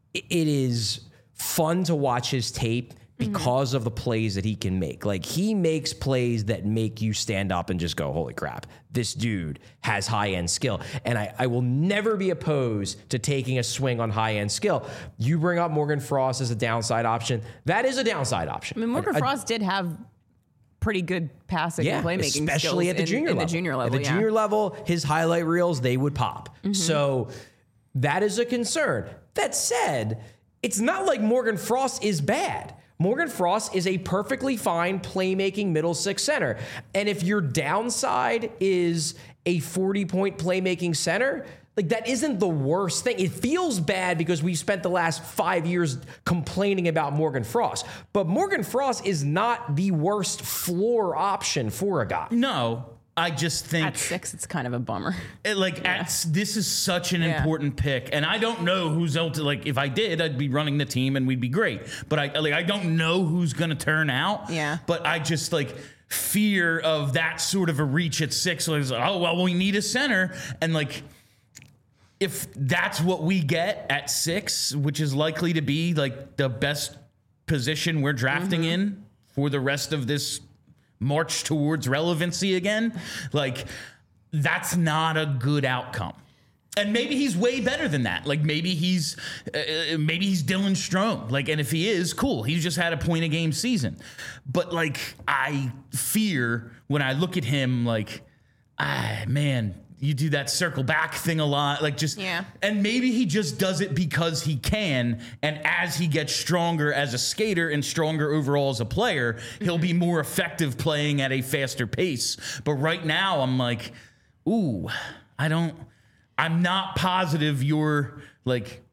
fun to watch his tape because of the plays that he can make. Like, he makes plays that make you stand up and just go, holy crap, this dude has high-end skill. And I will never be opposed to taking a swing on high-end skill. You bring up Morgan Frost as a downside option. That is a downside option.
I mean, Morgan Frost did have pretty good passing and playmaking
especially
skills
at the junior level.
The junior level.
At the junior level, his highlight reels, they would pop. So that is a concern. That said, it's not like Morgan Frost is bad. Morgan Frost is a perfectly fine playmaking middle six center. And if your downside is a 40-point playmaking center, like, that isn't the worst thing. It feels bad because we've spent the last 5 years complaining about Morgan Frost. But Morgan Frost is not the worst floor option for a guy.
No, I just think
at 6, it's kind of a bummer.
This is such an important pick, and I don't know who's else. Like, if I did, I'd be running the team and we'd be great. But I don't know who's going to turn out.
Yeah.
But I just fear of that sort of a reach at 6. Like, oh well, we need a center, and if that's what we get at 6, which is likely to be the best position we're drafting in for the rest of this march towards relevancy again, that's not a good outcome. And maybe he's way better than that. Maybe he's Dylan Strome. And if he is, cool. He's just had a point a game season. But I fear when I look at him, man, you do that circle back thing a lot. And maybe he just does it because he can. And as he gets stronger as a skater and stronger overall as a player, he'll be more effective playing at a faster pace. But right now I'm I'm not positive you're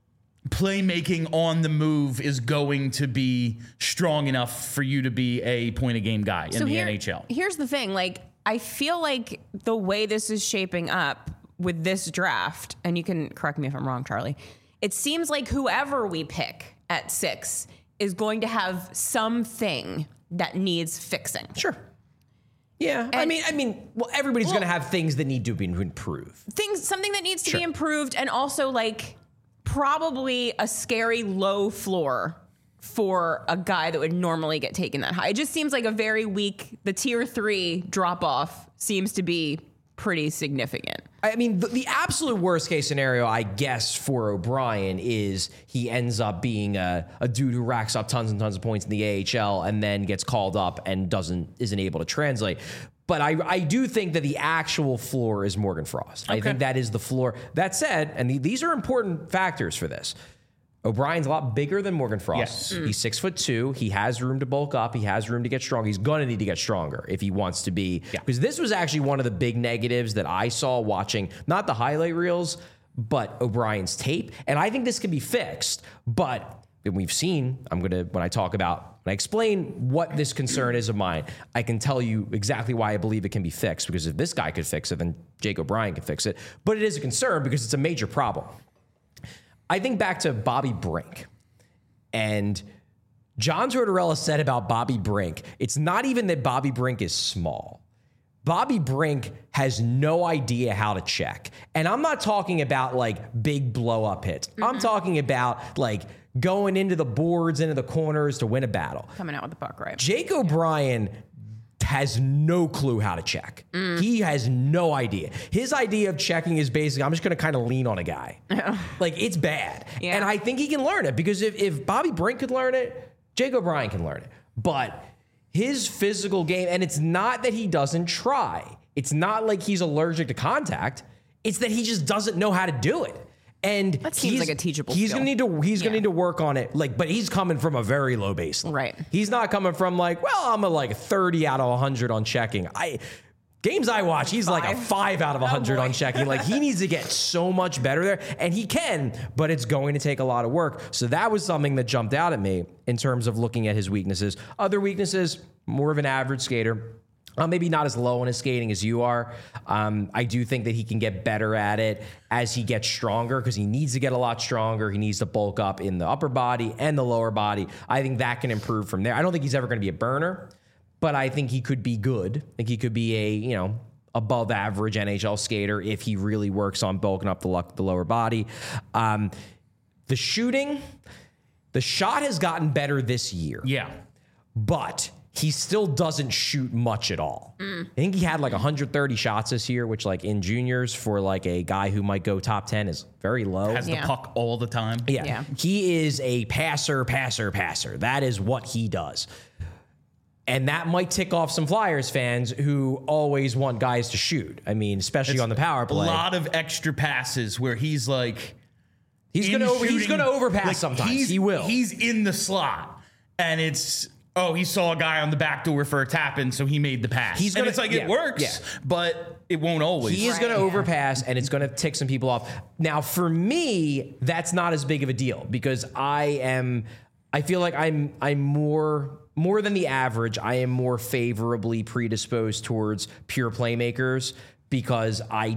playmaking on the move is going to be strong enough for you to be a point a game guy in the NHL.
Here's the thing. Like, I feel like the way this is shaping up with this draft, and you can correct me if I'm wrong, Charlie, it seems like whoever we pick at 6 is going to have something that needs fixing.
Sure. Yeah, and I mean, well, everybody's going to have things that need to be improved.
Something that needs to be improved, and also like probably a scary low floor for a guy that would normally get taken that high. It just seems like a very weak, the tier 3 drop off seems to be pretty significant.
I mean, the absolute worst case scenario, I guess, for O'Brien is he ends up being a dude who racks up tons and tons of points in the AHL and then gets called up and isn't able to translate. But I do think that the actual floor is Morgan Frost. Okay. I think that is the floor. That said, and these are important factors for this, O'Brien's a lot bigger than Morgan Frost. Yes. He's 6'2". He has room to bulk up. He has room to get strong. He's going to need to get stronger if he wants to be. Because this was actually one of the big negatives that I saw watching, not the highlight reels, but O'Brien's tape. And I think this can be fixed. But we've seen, when I explain what this concern is of mine, I can tell you exactly why I believe it can be fixed. Because if this guy could fix it, then Jake O'Brien can fix it. But it is a concern because it's a major problem. I think back to Bobby Brink, and John Tortorella said about Bobby Brink, it's not even that Bobby Brink is small. Bobby Brink has no idea how to check. And I'm not talking about like big blow up hits. Mm-hmm. I'm talking about like going into the boards, into the corners to win a battle.
Coming out with the puck, right?
Jake O'Brien has no clue how to check. He has no idea. His idea of checking is basically, I'm just going to kind of lean on a guy. Like, it's bad. Yeah. And I think he can learn it because if Bobby Brink could learn it, Jake O'Brien can learn it. But his physical game, and it's not that he doesn't try. It's not like he's allergic to contact. It's that he just doesn't know how to do it. And
that seems like a teachable
skill.
Gonna
need to work on it. Like, but he's coming from a very low baseline.
Right.
He's not coming from like, well, I'm a like 30 out of 100 on checking. Games I watch, he's like a 5 out of 100 on checking. Like, he needs to get so much better there, and he can, but it's going to take a lot of work. So that was something that jumped out at me in terms of looking at his weaknesses. Other weaknesses, more of an average skater. Maybe not as low on his skating as you are. I do think that he can get better at it as he gets stronger because he needs to get a lot stronger. He needs to bulk up in the upper body and the lower body. I think that can improve from there. I don't think he's ever going to be a burner, but I think he could be good. I think he could be a, above average NHL skater if he really works on bulking up the lower body. The shooting, the shot has gotten better this year.
Yeah.
But he still doesn't shoot much at all. I think he had like 130 shots this year, which like in juniors for like a guy who might go top 10 is very low.
Has the puck all the time.
Yeah. He is a passer. That is what he does. And that might tick off some Flyers fans who always want guys to shoot. I mean, especially on the power play.
A lot of extra passes where he's like...
He's going to overpass like sometimes. He will.
He's in the slot and it's... Oh, he saw a guy on the back door for a tap-in, so he made the pass. It works, but it won't always.
He is going to overpass, and it's going to tick some people off. Now, for me, that's not as big of a deal because I feel like I'm more than the average. I am more favorably predisposed towards pure playmakers because I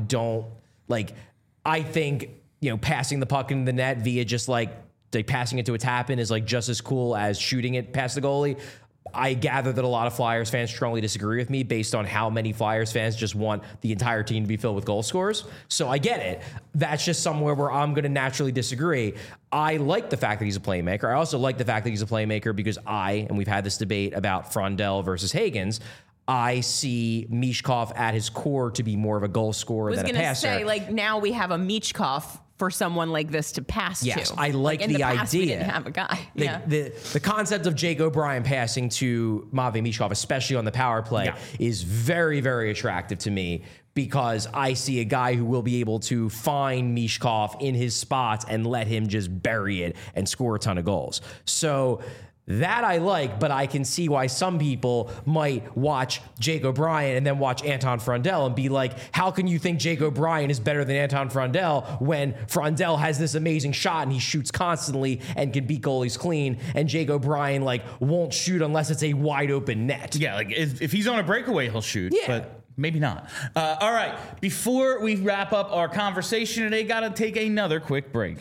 think, passing the puck into the net via just like passing it to a tap-in is like just as cool as shooting it past the goalie. I gather that a lot of Flyers fans strongly disagree with me based on how many Flyers fans just want the entire team to be filled with goal scorers. So I get it. That's just somewhere where I'm going to naturally disagree. I like the fact that he's a playmaker. I also like the fact that he's a playmaker because and we've had this debate about Frondell versus Hagens, I see Michkov at his core to be more of a goal scorer than a passer. I was
going to say, like, now we have a Michkov for someone like this to pass to.
Yes, I like
in
the
past,
idea.
We didn't have a guy.
The concept of Jake O'Brien passing to Matvei Michkov, especially on the power play, is very, very attractive to me because I see a guy who will be able to find Michkov in his spots and let him just bury it and score a ton of goals. So That I like, but I can see why some people might watch Jake O'Brien and then watch Anton Frondell and be like, how can you think Jake O'Brien is better than Anton Frondell when Frondell has this amazing shot and he shoots constantly and can beat goalies clean, and Jake O'Brien like won't shoot unless it's a wide open net.
Yeah, like if he's on a breakaway, he'll shoot.
Yeah.
But maybe not. All right, before we wrap up our conversation today, got to take another quick break.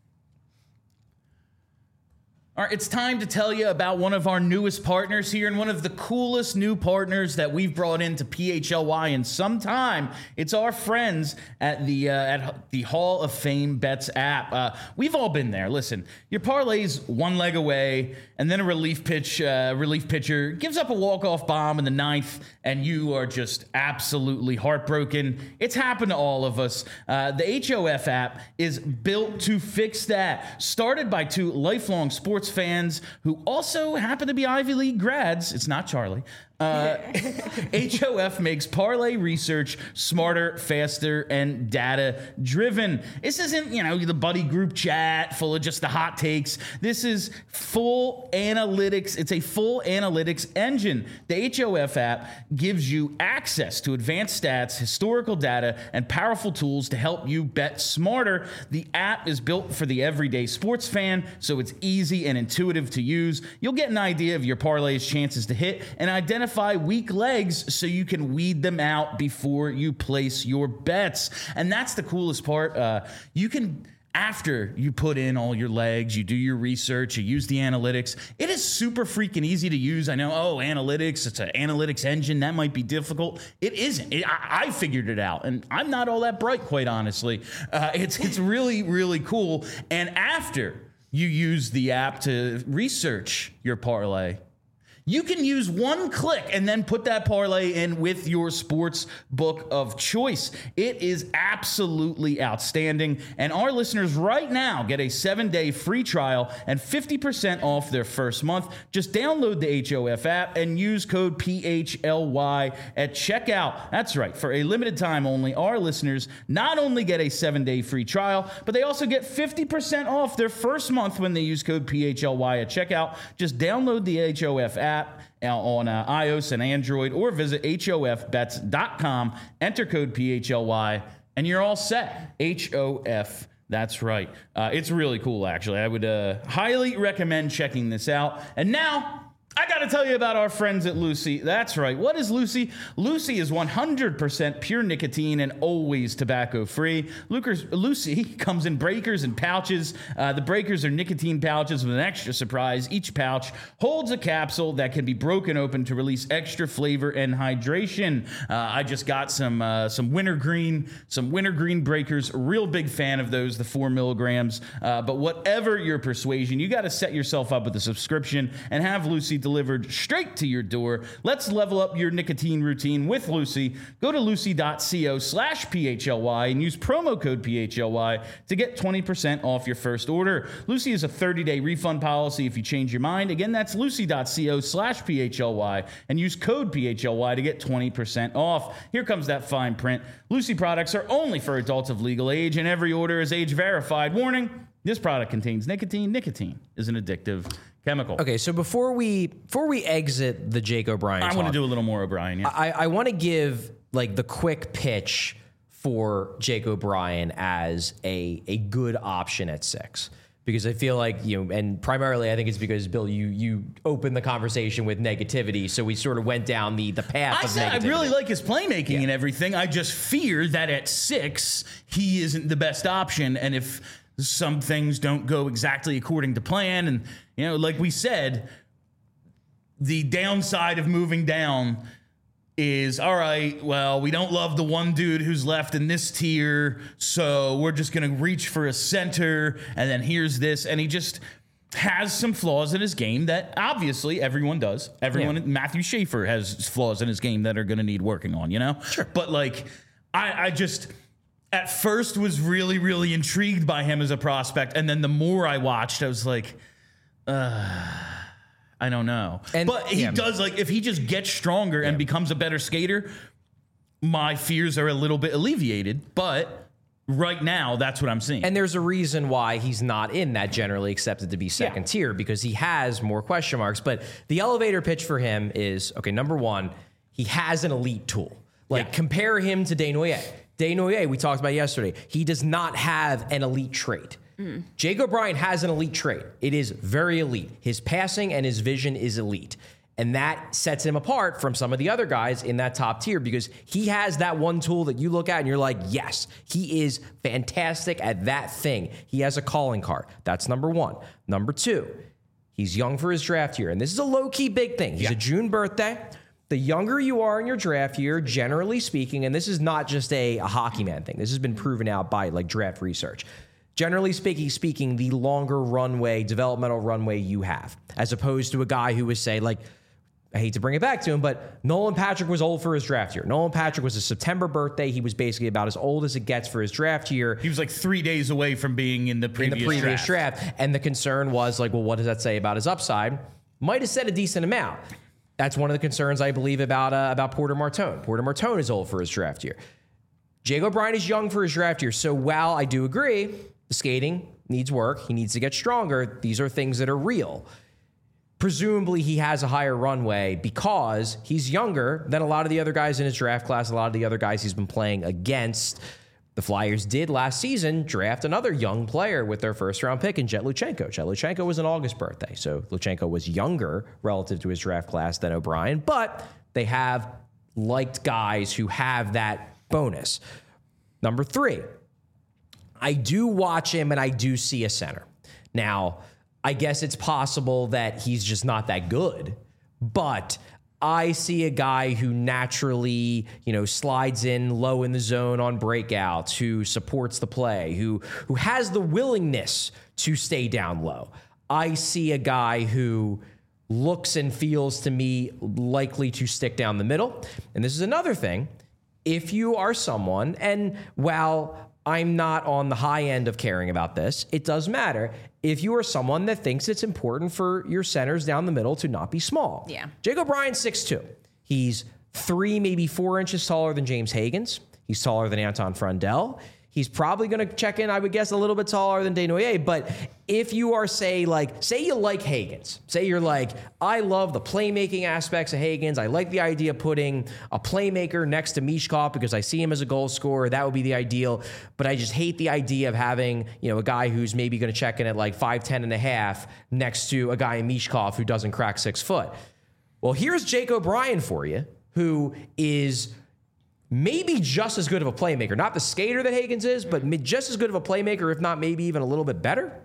All right, it's time to tell you about one of our newest partners here and one of the coolest new partners that we've brought into PHLY in some time. It's our friends at the Hall of Fame Bets app. We've all been there. Listen, your parlay's one leg away, and then a relief pitcher gives up a walk-off bomb in the ninth, and you are just absolutely heartbroken. It's happened to all of us. The HOF app is built to fix that. Started by two lifelong sports fans who also happen to be Ivy League grads. It's not Charlie. HOF makes parlay research smarter, faster, and data-driven. This isn't, the buddy group chat full of just the hot takes. This is full analytics. It's a full analytics engine. The HOF app gives you access to advanced stats, historical data, and powerful tools to help you bet smarter. The app is built for the everyday sports fan, so it's easy and intuitive to use. You'll get an idea of your parlay's chances to hit and identify weak legs so you can weed them out before you place your bets. And that's the coolest part. You can, after you put in all your legs, you do your research, you use the analytics, it is super freaking easy to use. I know, analytics, it's an analytics engine. That might be difficult. It isn't. I figured it out, and I'm not all that bright, quite honestly. It's really, really cool. And after you use the app to research your parlay, you can use one click and then put that parlay in with your sports book of choice. It is absolutely outstanding. And our listeners right now get a 7-day free trial and 50% off their first month. Just download the HOF app and use code PHLY at checkout. That's right. For a limited time only, our listeners not only get a 7-day free trial, but they also get 50% off their first month when they use code PHLY at checkout. Just download the HOF app on iOS and Android, or visit hofbets.com, enter code PHLY, and you're all set. HOF, that's right. It's really cool, actually. I would highly recommend checking this out. And now, I got to tell you about our friends at Lucy. That's right. What is Lucy? Lucy is 100% pure nicotine and always tobacco-free. Lucy comes in breakers and pouches. The breakers are nicotine pouches with an extra surprise. Each pouch holds a capsule that can be broken open to release extra flavor and hydration. I just got some wintergreen breakers. Real big fan of those, the 4 milligrams. But whatever your persuasion, you got to set yourself up with a subscription and have Lucy delivered straight to your door. Let's level up your nicotine routine with Lucy. Go to lucy.co/PHLY and use promo code PHLY to get 20% off your first order. Lucy is a 30-day refund policy if you change your mind. Again, that's lucy.co/PHLY and use code PHLY to get 20% off. Here comes that fine print. Lucy products are only for adults of legal age, and every order is age verified. Warning, this product contains nicotine. Nicotine is an addictive chemical.
Okay, so before we exit the Jake O'Brien
I want to do a little more O'Brien. Yeah.
I want to give like the quick pitch for Jake O'Brien as a good option at 6. Because I feel like, and primarily I think it's because, Bill, you opened the conversation with negativity, so we sort of went down the path of negativity.
I really like his playmaking and everything. I just fear that at 6, he isn't the best option, and if some things don't go exactly according to plan, and like we said, the downside of moving down is, all right, well, we don't love the one dude who's left in this tier, so we're just going to reach for a center, and then here's this, and he just has some flaws in his game that obviously everyone does. Matthew Schaefer has flaws in his game that are going to need working on, Sure. But like, I just at first was really, really intrigued by him as a prospect, and then the more I watched, I was like, I don't know. But he does, like, if he just gets stronger and becomes a better skater, my fears are a little bit alleviated. But right now, that's what I'm seeing.
And there's a reason why he's not in that generally accepted to be second tier, because he has more question marks. But the elevator pitch for him is, okay, number one, he has an elite tool. Like, compare him to Desnoyers. Desnoyers, we talked about yesterday, he does not have an elite trait. Jake O'Brien has an elite trait. It is very elite. His passing and his vision is elite. And that sets him apart from some of the other guys in that top tier, because he has that one tool that you look at and you're like, yes, he is fantastic at that thing. He has a calling card. That's number one. Number two, he's young for his draft year. And this is a low-key big thing. He's a June birthday. The younger you are in your draft year, generally speaking, and this is not just a hockey man thing. This has been proven out by like draft research. Generally speaking, the longer runway, developmental runway you have, as opposed to a guy who was, say, like, I hate to bring it back to him, but Nolan Patrick was old for his draft year. Nolan Patrick was a September birthday. He was basically about as old as it gets for his draft year.
He was like 3 days away from being in the previous
draft. And the concern was like, well, what does that say about his upside? Might have said a decent amount. That's one of the concerns, I believe, about Porter Martone. Porter Martone is old for his draft year. Jake O'Brien is young for his draft year. So while I do agree, the skating needs work, he needs to get stronger, these are things that are real. Presumably, he has a higher runway because he's younger than a lot of the other guys in his draft class, a lot of the other guys he's been playing against. The Flyers did last season draft another young player with their first-round pick in Jet Luchenko. Jet Luchenko was an August birthday, so Luchenko was younger relative to his draft class than O'Brien, but they have liked guys who have that bonus. Number three, I do watch him and I do see a center. Now, I guess it's possible that he's just not that good, but I see a guy who naturally, slides in low in the zone on breakouts, who supports the play, who has the willingness to stay down low. I see a guy who looks and feels to me likely to stick down the middle. And this is another thing. If you are someone, and while I'm not on the high end of caring about this, it does matter. If you are someone that thinks it's important for your centers down the middle to not be small.
Yeah.
Jake O'Brien's 6'2". He's 3, maybe 4 inches taller than James Higgins. He's taller than Anton Frundell. He's probably going to check in, I would guess, a little bit taller than Desnoyers. But if you are, say you like Higgins. Say you're like, I love the playmaking aspects of Higgins. I like the idea of putting a playmaker next to Mishkov because I see him as a goal scorer. That would be the ideal. But I just hate the idea of having, a guy who's maybe going to check in at like 5'10" and a half next to a guy in Mishkov who doesn't crack 6 foot. Well, here's Jake O'Brien for you, who is maybe just as good of a playmaker. Not the skater that Higgins is, but just as good of a playmaker, if not maybe even a little bit better.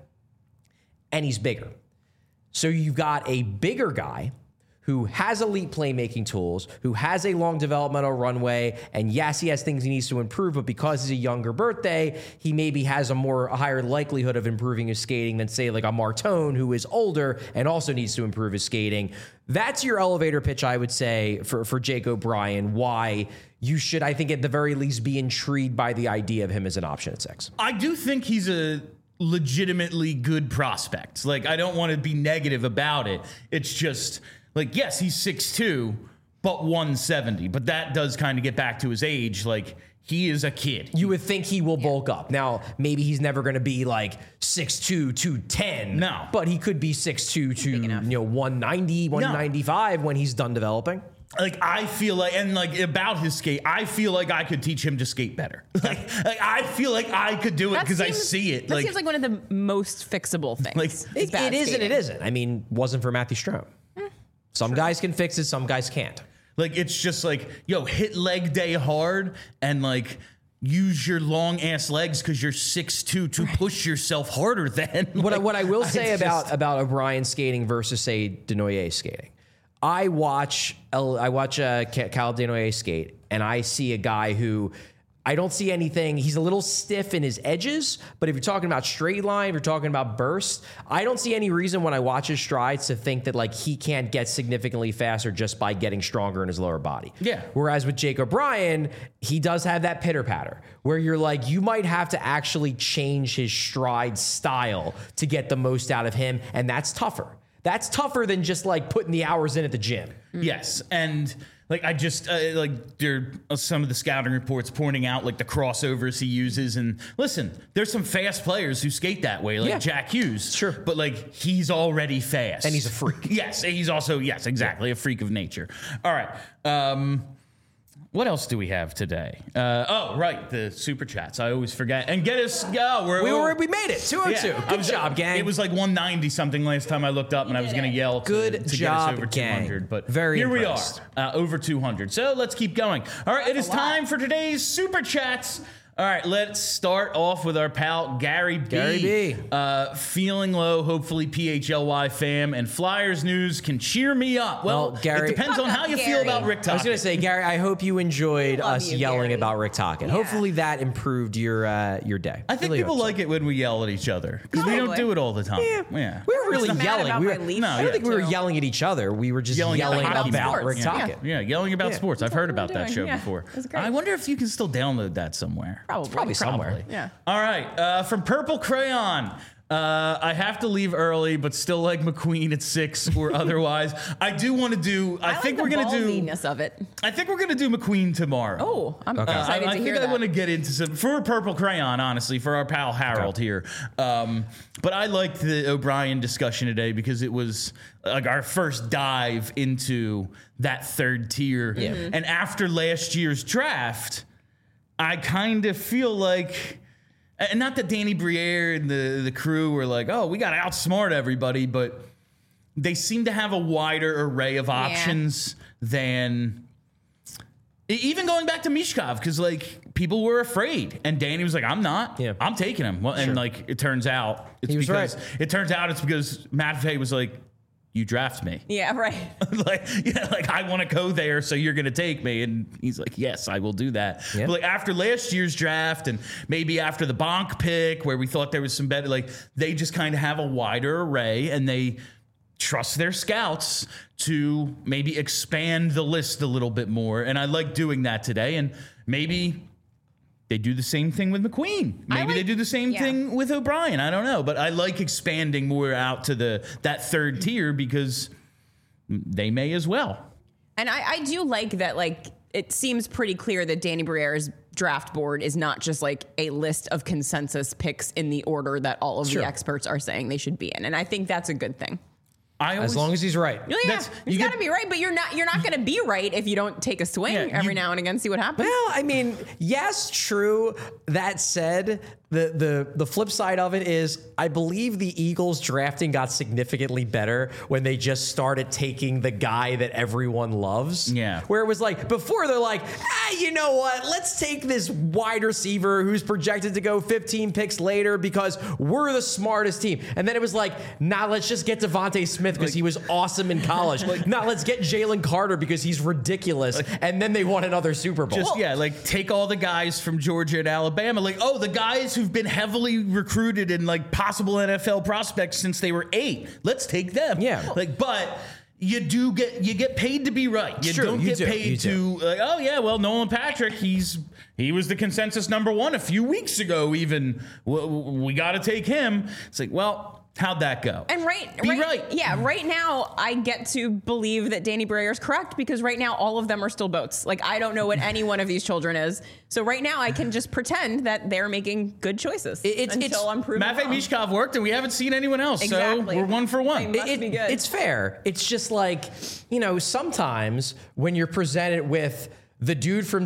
And he's bigger. So you've got a bigger guy who has elite playmaking tools, who has a long developmental runway, and yes, he has things he needs to improve, but because he's a younger birthday, he maybe has a higher likelihood of improving his skating than, say, like a Martone, who is older and also needs to improve his skating. That's your elevator pitch, I would say, for Jake O'Brien, why you should, I think, at the very least, be intrigued by the idea of him as an option at 6.
I do think he's a legitimately good prospect. Like, I don't want to be negative about it. It's just, like, yes, he's 6'2", but 170. But that does kind of get back to his age. Like, he is a kid.
You would think he will bulk up. Now, maybe he's never going to be like 6'2", 210.
No.
But he could be 6'2" to 190, 195 when he's done developing.
Like, I feel like, and like about his skate, I feel like I could teach him to skate better. Like I feel like I could do it because I see it.
That seems like one of the most fixable things.
Like,
it is and it isn't. I mean, wasn't for Matthew Strome. Some guys can fix it, some guys can't.
Like, it's just like, hit leg day hard and like use your long ass legs because you're 6'2" to push yourself harder than.
What I will say about O'Brien skating versus, say, Desnoyers skating. I watch Cal Desnoyers skate, and I see a guy who I don't see anything. He's a little stiff in his edges, but if you're talking about straight line, if you're talking about burst, I don't see any reason when I watch his strides to think that like he can't get significantly faster just by getting stronger in his lower body.
Yeah.
Whereas with Jake O'Brien, he does have that pitter patter where you're like, you might have to actually change his stride style to get the most out of him, and that's tougher. That's tougher than just like putting the hours in at the gym.
Yes. And Like I just like there are some of the scouting reports pointing out like the crossovers he uses, and listen, there's some fast players who skate that way, like Jack Hughes.
Sure.
But like he's already fast,
And he's a freak.
Yes, he's also exactly a freak of nature. All right. What else do we have today? The super chats. I always forget. And get us.
We made it 202.
Yeah,
Good job, gang.
It was like 190 something last time I looked up, and I was going to yell to
Good
get
job,
us over
gang.
200. But
Very
here
impressed.
we are, over 200. So let's keep going. All right, it is time for today's super chats. All right, let's start off with our pal Gary B.
Gary B.
Feeling low. Hopefully, PHLY fam and Flyers news can cheer me up. Well,
Gary-
it depends on how you feel
Gary.
about Rick Tocchet.
I was going to say, Gary, I hope you enjoyed
Love
us
you,
yelling
Gary.
about Rick Tocchet.
Yeah.
Hopefully that improved your day.
I think
Really
people
hope so.
like it when we yell at each other because we don't
Probably.
do it all the time. Yeah.
We were really
Mad
yelling.
about
We
my
were,
Leafs
No,
I don't think we were
too.
yelling at each other. We were just
Yelling
yelling,
at hockey
about
sports.
Rick
Yeah.
Tocchet.
Yeah, yelling about sports. I've heard
what
about
we're
that
doing.
show
Yeah,
before.
it was great.
I wonder if you can still download that somewhere.
Probably somewhere.
Yeah.
All right, from Purple Crayon. I have to leave early, but still like McQueen at 6 or otherwise. I do want to do. I think
like
we're
the
gonna do.
ballsiness of it.
I think we're gonna do McQueen tomorrow.
Oh, I'm excited
I
to hear
think I
that.
want to get into some for Purple Crayon, honestly, for our pal Harold here. But I liked the O'Brien discussion today because it was like our first dive into that third tier.
Mm-hmm.
And after last year's draft, I kind of feel like. And not that Danny Briere and the crew were like, oh, we got to outsmart everybody, but they seem to have a wider array of options than even going back to Mishkov, because like people were afraid, and Danny was like, I'm not.
Yeah.
I'm taking him. Well, and like it turns out it's
He was
because
right.
it turns out it's because Matt Fay was like, you draft me.
Yeah, right.
like I want to go there, so you're going to take me. And he's like, yes, I will do that.
Yeah.
But like after last year's draft, and maybe after the Bonk pick, where we thought there was some better, like they just kind of have a wider array, and they trust their scouts to maybe expand the list a little bit more. And I like doing that today. And maybe they do the same thing with McQueen. Maybe they do the same thing with O'Brien. I don't know, but I like expanding more out to that third tier because they may as well.
And I do like that, like, it seems pretty clear that Danny Briere's draft board is not just like a list of consensus picks in the order that all of the experts are saying they should be in. And I think that's a good thing.
As long as he's right.
Yeah, he's got to be right, but you're not going to be right if you don't take a swing every now and again, see what happens.
Well, I mean, yes, true. That said, the flip side of it is I believe the Eagles drafting got significantly better when they just started taking the guy that everyone loves.
Yeah.
Where it was like, before they're like, you know what? Let's take this wide receiver who's projected to go 15 picks later because we're the smartest team. And then it was like, nah, let's just get Devontae Smith because he was awesome in college. Nah, let's get Jalen Carter because he's ridiculous. And then they won another Super Bowl.
Like take all the guys from Georgia and Alabama. Like, oh, the guys who've been heavily recruited and like possible NFL prospects since they were 8. Let's take them.
Yeah.
Like, but you get paid to be right. You
True,
don't
you
get
do,
paid
you
to like, oh yeah, well, Nolan Patrick, he was the consensus number 1 a few weeks ago. Even we got to take him. It's like, well, how'd that go?
And right. Yeah, right now I get to believe that Danny Briere's correct because right now all of them are still boats. Like I don't know what any one of these children is. So right now I can just pretend that they're making good choices until I'm proven
Matvei
wrong.
Mishkov worked, and we haven't seen anyone else.
Exactly.
So we're 1 for 1.
They must be good.
It's fair. It's just like, sometimes when you're presented with the dude from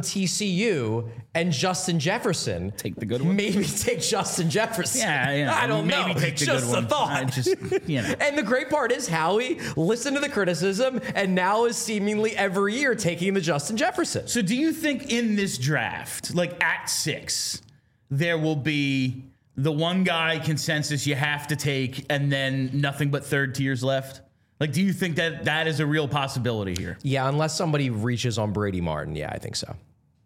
TCU and Justin Jefferson,
Take the good one.
Maybe take Justin Jefferson.
Yeah.
I don't know.
Maybe take the
just
good one.
a thought.
I just,
And the great part is Howie listened to the criticism and now is seemingly every year taking the Justin Jefferson.
So do you think in this draft, like at 6, there will be the one guy consensus you have to take and then nothing but third tiers left? Like, do you think that is a real possibility here?
Yeah, unless somebody reaches on Brady Martin. Yeah, I think so.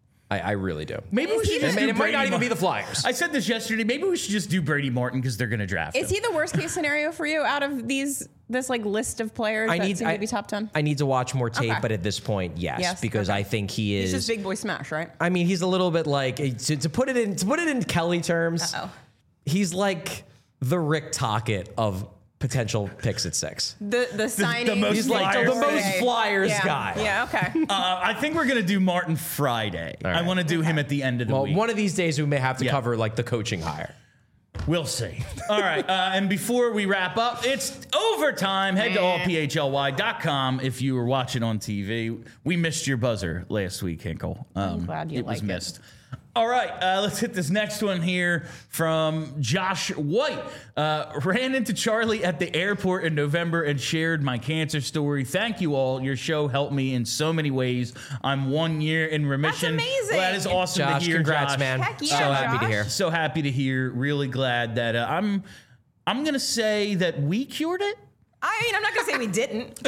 I really do.
Maybe we should just do
And it might
Brady
not even be
Martin.
the Flyers.
I said this yesterday. Maybe we should just do Brady Martin because they're going to draft him.
Is he the worst case scenario for you out of this like list of players that seem to be top 10?
I need to watch more tape,
Okay.
but at this point, yes, because
okay.
I think he is.
He's just big boy smash, right?
I mean, he's a little bit like to put it in Kelly terms.
Uh-oh.
He's like the Rick Tocchet of potential picks at 6.
The signing.
most
He's like
Flyers
the most
day.
Flyers
Yeah.
guy.
Yeah, okay.
I think we're gonna do Martin Friday.
right.
I want to do him at the end of the
Well,
week.
one of these days we may have to
Yeah.
cover like the coaching hire.
We'll see. All right. And before we wrap up, it's overtime. Head to allphly.com if you were watching on TV. We missed your buzzer last week, Hinkle.
I'm glad you
it was
like it.
missed. All right, let's hit this next one here from Josh White. Ran into Charlie at the airport in November and shared my cancer story. Thank you all. Your show helped me in so many ways. I'm 1 year in remission.
That's amazing.
Well, that is awesome
Josh,
to hear,
congrats,
Josh.
man.
Heck yeah,
so happy to
Josh.
hear.
So happy to hear. Really glad that I'm going to say that we cured it.
I mean, I'm not going to say we didn't.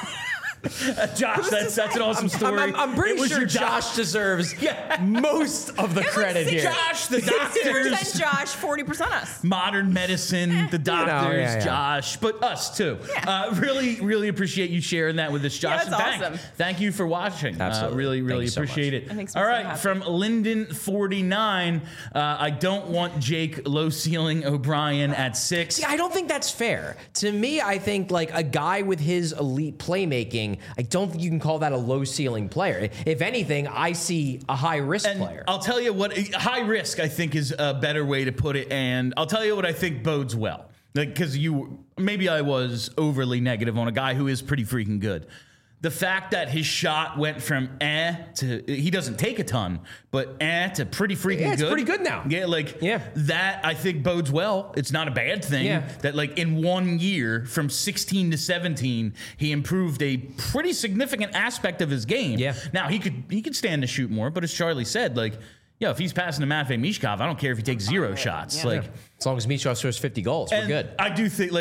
Josh, that's an awesome story.
I'm
It
pretty
was
sure
your
Josh deserves most of the credit here.
Josh, the
60%
doctors,
Josh, 40% us.
modern medicine, the doctors,
yeah.
Josh, but us too.
Yeah.
Really, really appreciate you sharing that with us, Josh.
that's
And
awesome.
Thank you for watching.
Absolutely.
Really, really
Thank you so
appreciate
much.
it.
It makes me
All
so
right,
happy.
from Linden49, I don't want Jake low ceiling O'Brien at 6.
See, I don't think that's fair. To me, I think like a guy with his elite playmaking, I don't think you can call that a low ceiling player. If anything, I see a high risk
And
player.
I'll tell you what, high risk, I think, is a better way to put it. And I'll tell you what I think bodes well. Like, because maybe I was overly negative on a guy who is pretty freaking good. The fact that his shot went from to, he doesn't take a ton, but to pretty freaking good.
Yeah, it's pretty good now.
Yeah, that I think bodes well. It's not a bad thing.
Yeah.
That like in 1 year, from 16 to 17, he improved a pretty significant aspect of his game.
Yeah.
Now he could stand to shoot more, but as Charlie said, like, if he's passing to Matvei Mishkov, I don't care if he takes 0 shots.
Yeah.
Like,
As long as Michov scores 50 goals, we're
and
good.
I do think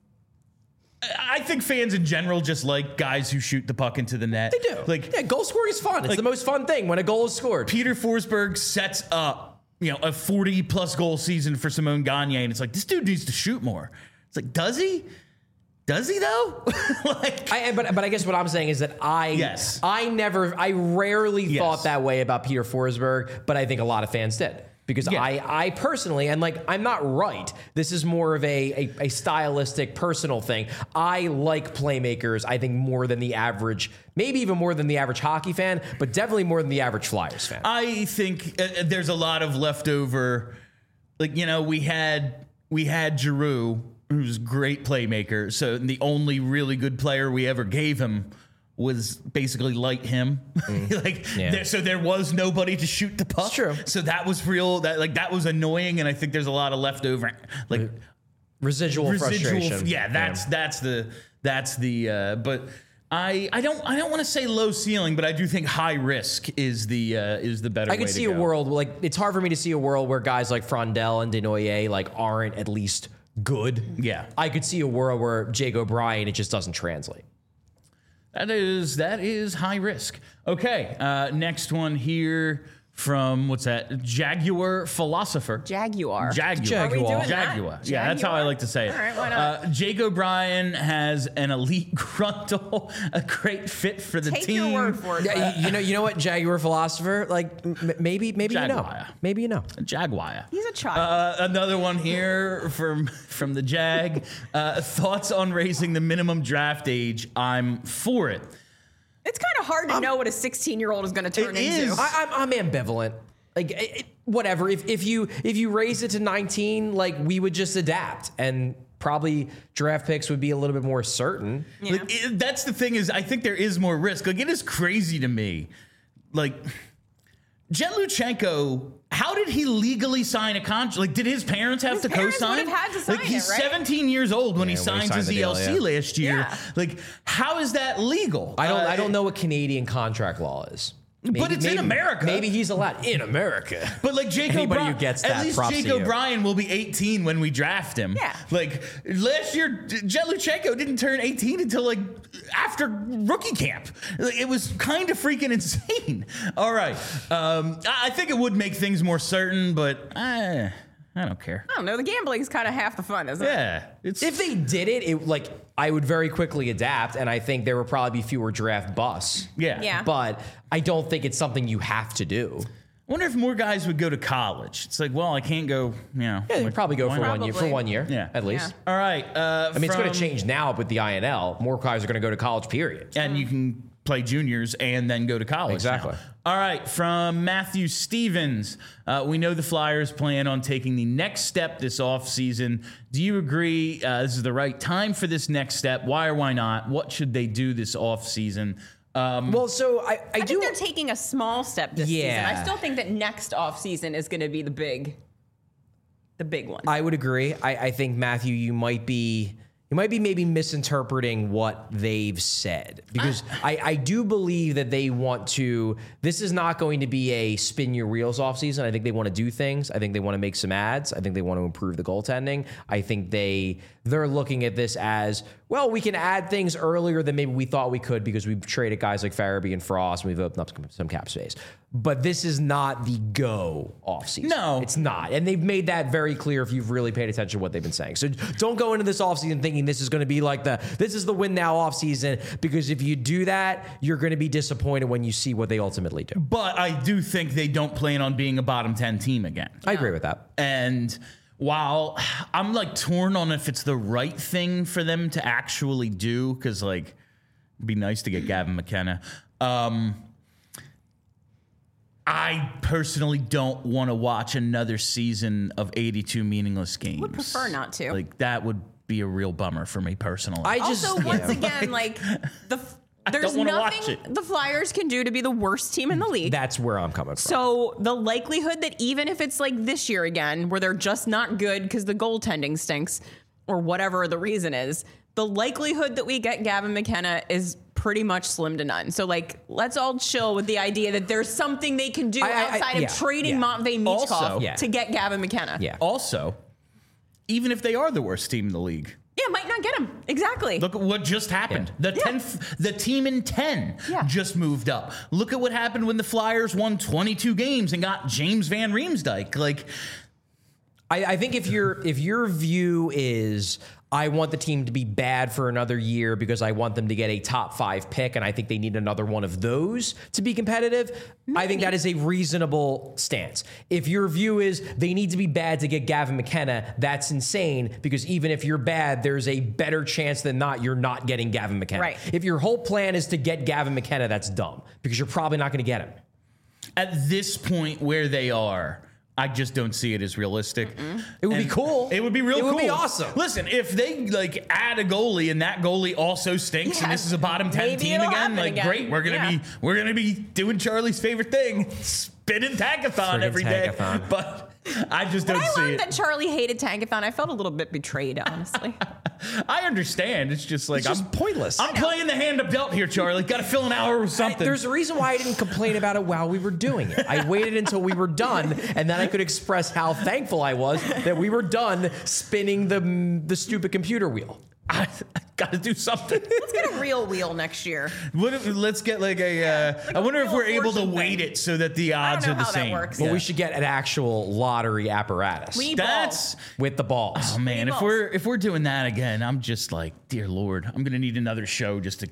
I think fans in general just like guys who shoot the puck into the net.
They do.
Like,
yeah, goal scoring is fun. It's the most fun thing when a goal is scored.
Peter Forsberg sets up, a 40-plus goal season for Simone Gagne, and it's like, this dude needs to shoot more. It's like, does he? Does he though?
But I guess what I'm saying is that I rarely thought that way about Peter Forsberg, but I think a lot of fans did. Because I personally, and I'm not right. This is more of a stylistic, personal thing. I like playmakers, I think, more than the average, maybe even more than the average hockey fan, but definitely more than the average Flyers fan.
I think there's a lot of leftover. We had Giroux, who's a great playmaker. So the only really good player we ever gave him was basically light him. So there was nobody to shoot the puck.
It's true.
So that was real. That was annoying, and I think there's a lot of leftover
Residual frustration.
Yeah, that's the. But I don't want to say low ceiling, but I do think high risk is the better.
I could see a world it's hard for me to see a world where guys like Frondell and Desnoyers aren't at least good.
Yeah.
I could see a world where Jake O'Brien, it just doesn't translate.
That is high risk. Okay, next one here from what's that? Jaguar Philosopher.
Jaguar.
Jaguar.
Are we doing that?
Jaguar. Yeah, that's how I like to say it.
All right, why not?
Jake O'Brien has an elite gruntle, a great fit for the
Take
team.
your word for it.
Yeah, you know what, Jaguar Philosopher? Maybe you know.
Jaguar.
Maybe you know.
Jaguar.
He's a child.
Another one here from the Jag. Thoughts on raising the minimum draft age? I'm for it.
It's kind of hard to know what a 16-year-old is going to turn
It
into.
is.
I'm ambivalent. Whatever. If you raise it to 19, we would just adapt and probably draft picks would be a little bit more certain.
Yeah.
That's the thing is I think there is more risk. It is crazy to me. Jet Luchenko, how did he legally sign a contract? Did his parents have to
parents
co-sign?
would have had to sign
He's
it, right?
17 years old when he
when he
signs his
signed the deal,
ELC last year.
Yeah.
How is that legal?
I don't know what Canadian contract law is.
But it's in America.
Maybe he's allowed in America.
But Jake
Anybody
O'Brien,
who gets
at
that,
least
props
Jake
to you.
O'Brien will be 18 when we draft him.
Yeah.
Last year, Jet Luchenko didn't turn 18 until after rookie camp. It was kind of freaking insane. All right, I think it would make things more certain, but I don't care.
I don't know. The gambling's kind of half the fun, isn't it?
Yeah, it's
If they did it, I would very quickly adapt, and I think there would probably be fewer draft busts.
yeah.
Yeah.
But I don't think it's something you have to do.
wonder if more guys would go to college. It's like, well, I can't go,
Yeah, you'd probably go
why
for
not?
1 year. For 1 year,
Yeah.
at least.
All right.
I mean, it's going to change now with the INL. More guys are going to go to college, period.
And you can play juniors and then go to college.
Exactly.
now. All right. From Matthew Stevens, we know the Flyers plan on taking the next step this offseason. Do you agree this is the right time for this next step? Why or why not? What should they do this offseason?
Well, so I
I
do.
think they're taking a small step this
Yeah.
season. I still think that next offseason is going to be the big one.
I would agree. I think, Matthew, you might be maybe misinterpreting what they've said, because I do believe that they want to. This is not going to be a spin your wheels off season. I think they want to do things. I think they want to make some ads. I think they want to improve the goaltending. I think they're looking at this as, well, we can add things earlier than maybe we thought we could because we've traded guys like Farabee and Frost and we've opened up some cap space. But this is not the go off season.
No.
It's not. And they've made that very clear if you've really paid attention to what they've been saying. So don't go into this offseason thinking this is going to be like this is the win now offseason, because if you do that, you're going to be disappointed when you see what they ultimately do.
But I do think they don't plan on being a bottom 10 team again.
I agree with that.
And while I'm like torn on if it's the right thing for them to actually do, because like it'd be nice to get Gavin McKenna. I personally don't want to watch another season of 82 meaningless games.
Would prefer not to.
Like that would be a real bummer for me personally.
Also, once again, like there's
don't wanna watch
nothing
it.
the Flyers can do to be the worst team in the league.
That's where I'm coming from.
So the likelihood that even if it's like this year again, where they're just not good because the goaltending stinks or whatever the reason is, the likelihood that we get Gavin McKenna is pretty much slim to none. So like, let's all chill with the idea that there's something they can do outside of trading Matvei Michkov
Also-
to get Gavin McKenna.
Yeah.
Also, even if they are the worst team in the league,
Yeah, might not get him. Exactly.
look at what just happened.
Yeah.
The team in 10
Yeah.
just moved up. Look at what happened when the Flyers won 22 games and got James Van Riemsdyk. Like,
I think if your view is, I want the team to be bad for another year because I want them to get a top 5 pick, and I think they need another one of those to be competitive, I think that is a reasonable stance. If your view is they need to be bad to get Gavin McKenna, that's insane, because even if you're bad, there's a better chance than not you're not getting Gavin McKenna.
Right.
If your whole plan is to get Gavin McKenna, that's dumb, because you're probably not going to get him.
at this point where they are, I just don't see it as realistic.
It would be cool.
It would be real cool.
It would be awesome.
Listen, if they like add a goalie and that goalie also stinks and this is a bottom 10
maybe
team
it'll
again,
happen
like
again.
great, we're gonna be doing Charlie's favorite thing, spinning Tankathon
Friggin'
every day.
Tankathon.
But I just
When
don't
I
see
learned
it.
that Charlie hated Tankathon, I felt a little bit betrayed, honestly.
I understand. It's just like
It's just pointless.
I'm playing the hand of dealt here, Charlie. Got to fill an hour with something.
There's a reason why I didn't complain about it while we were doing it. I waited until we were done, and then I could express how thankful I was that we were done spinning the stupid computer wheel.
I got to do something.
Let's get a real wheel next year.
What if, let's get like a. I wonder if
real
we're able to
fortune
weight
thing.
it so that the odds
know
are the
how that
same.
works.
But
Yeah.
we should get an actual lottery apparatus
We need
That's
balls.
with the balls.
oh man.
Three
If
balls.
we're doing that again, I'm just like, dear Lord, I'm gonna need another show just to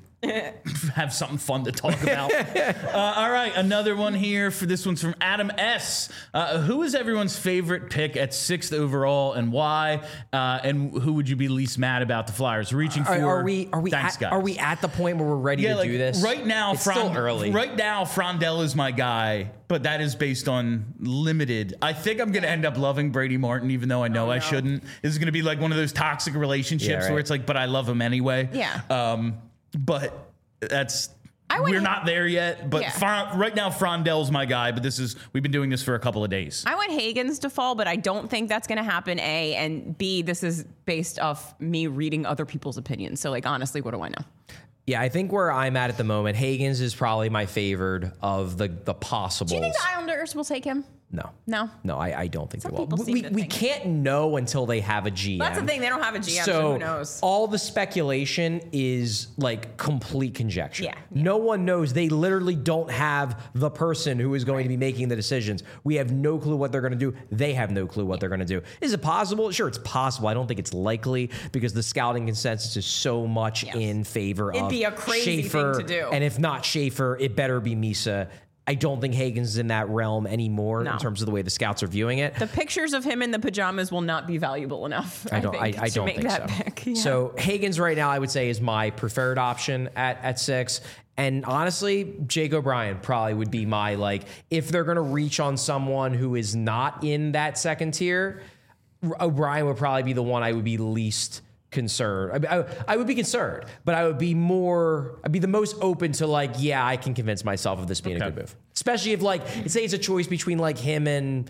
have something fun to talk about. All right, another one here. For this one's from Adam S. Who is everyone's favorite pick at 6th overall and why? And who would you be least mad about the Flyers reaching for?
Are we
Thanks,
at,
guys.
are we at the point where we're ready to do this?
Right now,
it's still early.
Right now, Frondell is my guy, but that is based on limited. I think I'm going to end up loving Brady Martin, even though I know I shouldn't. This is going to be like one of those toxic relationships
Yeah, right.
where it's like, but I love him anyway.
Yeah.
But that's.
I went-
We're not there yet, but
Yeah.
right now Frondell's my guy. But we've been doing this for a couple of days.
I want Hagens to fall, but I don't think that's going to happen, A. And B, this is based off me reading other people's opinions. So, like, honestly, what do I know?
Yeah, I think where I'm at the moment, Hagens is probably my favored of the possibles.
Do you think the Islanders will take him?
No.
No?
No, I don't think
Some
they will.
people seem to
We
think.
can't know until they have a GM.
That's the thing. They don't have a GM, so
So
who knows?
all the speculation is like complete conjecture.
Yeah.
No one knows. They literally don't have the person who is going to be making the decisions. We have no clue what they're going to do. They have no clue what they're going to do. Is it possible? Sure, it's possible. I don't think it's likely because the scouting consensus is so much in favor
It'd
of
be a crazy thing
Schaefer.
to do.
And if not Schaefer, it better be Misa. I don't think Hagens is in that realm anymore
No.
in terms of the way the scouts are viewing it.
The pictures of him in the pajamas will not be valuable enough. I don't
think so.
Pick. Yeah.
So Hagens right now, I would say, is my preferred option at 6. And honestly, Jake O'Brien probably would be my, like, if they're going to reach on someone who is not in that second tier, O'Brien would probably be the one I would be least concerned. I would be concerned, but I'd be the most open to, like, yeah, I can convince myself of this being a good move. Especially if, like, say it's a choice between him and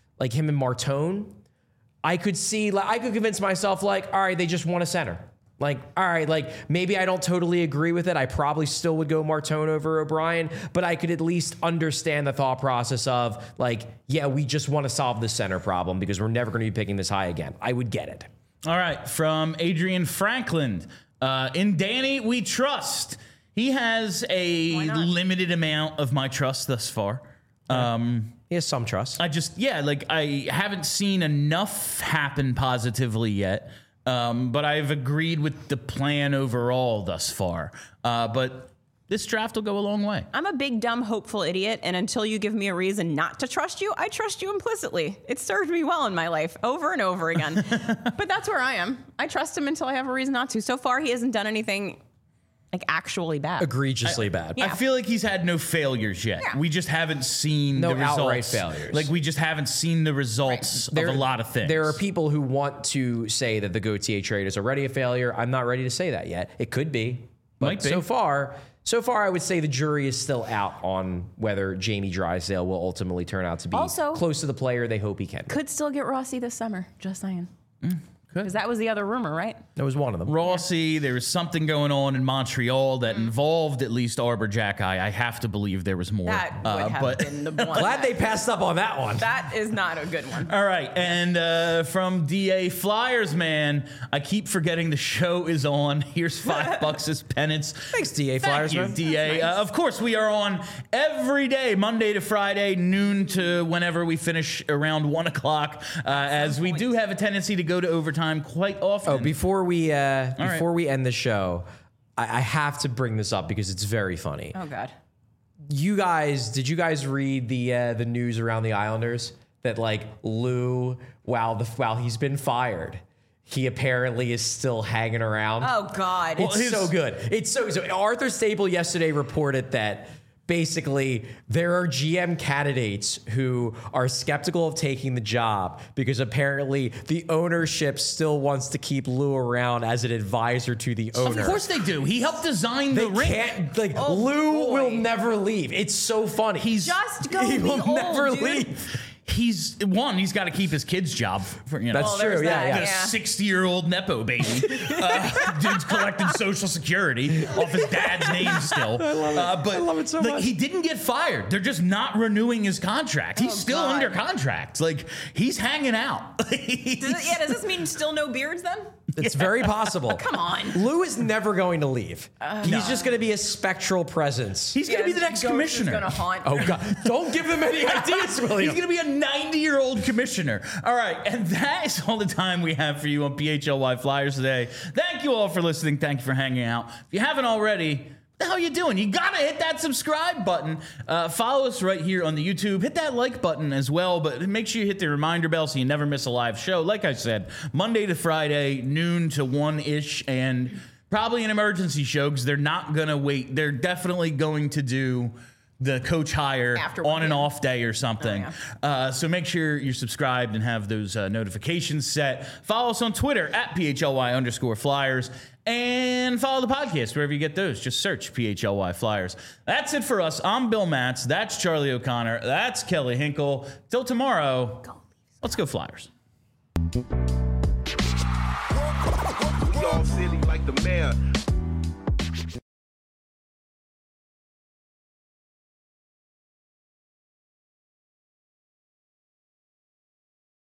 Martone. I could convince myself, like, all right, they just want a center. Like, all right, like, maybe I don't totally agree with it. I probably still would go Martone over O'Brien, but I could at least understand the thought process of, like, yeah, we just want to solve the center problem because we're never going to be picking this high again. I would get it.
All right, from Adrian Franklin. In Danny, we trust. He has a limited amount of my trust thus far.
He has some trust.
I haven't seen enough happen positively yet, but I've agreed with the plan overall thus far. But this draft will go a long way.
I'm a big, dumb, hopeful idiot, and until you give me a reason not to trust you, I trust you implicitly. It served me well in my life over and over again. But that's where I am. I trust him until I have a reason not to. So far, he hasn't done anything, like, actually bad.
Egregiously bad.
Yeah.
I feel like he's had no failures yet.
Yeah.
We just haven't seen
No
the results.
outright failures.
Like, we just haven't seen the results of a lot of things.
There are people who want to say that the Gauthier trade is already a failure. I'm not ready to say that yet. It could be. But
Might be.
So far, I would say the jury is still out on whether Jamie Drysdale will ultimately turn out to be
Also,
close to the player they hope he can be.
Could still get Rossi this summer, just saying. Because that was the other rumor, right?
That was one of them.
Rossi, there was something going on in Montreal that involved at least Arbor Jack Eye. I have to believe there was more.
That would have been the one.
Glad they passed up on that one.
That is not a good one.
All right, and from DA Flyers, man, I keep forgetting the show is on. Here's $5 as penance.
Thanks, DA Flyers,
Thank you,
man.
DA. Of course, we are on every day, Monday to Friday, noon to whenever we finish around 1 o'clock, as we do have a tendency to go to overtime quite often.
Oh, before we end the show, I have to bring this up because it's very funny.
Oh, God.
Did you guys read the news around the Islanders that, like, Lou, while he's been fired, he apparently is still hanging around?
Oh, God.
It's so good. It's so Arthur Staple yesterday reported that basically there are GM candidates who are skeptical of taking the job because apparently the ownership still wants to keep Lou around as an advisor to the owner.
Of course they do. He helped design the ring.
Lou
boy.
will never leave. It's so funny.
Just go
He
be
will
old,
never
dude.
leave.
He's got to keep his kid's job.
That's true.
there's
Yeah,
that,
yeah.
The 60-year-old Nepo baby. Dude's collecting Social Security off his dad's name still. I
love it so much.
He didn't get fired. They're just not renewing his contract. He's still
God.
under contract. Like, he's hanging out.
Does this mean still no beards then?
It's very possible.
Come on.
Lou is never going to leave. He's just going to be a spectral presence.
He's going to be the next commissioner.
He's going to haunt.
Oh, God. Don't give them any ideas, William.
He's going to be a 90-year-old commissioner. All right, and that is all the time we have for you on PHLY Flyers today. Thank you all for listening. Thank you for hanging out. If you haven't already, what the hell are you doing? You got to hit that subscribe button. Follow us right here on the YouTube. Hit that like button as well, but make sure you hit the reminder bell so you never miss a live show. Like I said, Monday to Friday, noon to 1-ish, and probably an emergency show because they're not going to wait. They're definitely going to do the coach hire
After
on an
1
off day or something. So make sure you're subscribed and have those notifications set. Follow us on Twitter at PHLY_Flyers and follow the podcast wherever you get those. Just search PHLY Flyers. That's it for us. I'm Bill Matz. That's Charlie O'Connor. That's Kelly Hinkle. Till tomorrow, let's go Flyers.
Dog City like the mayor.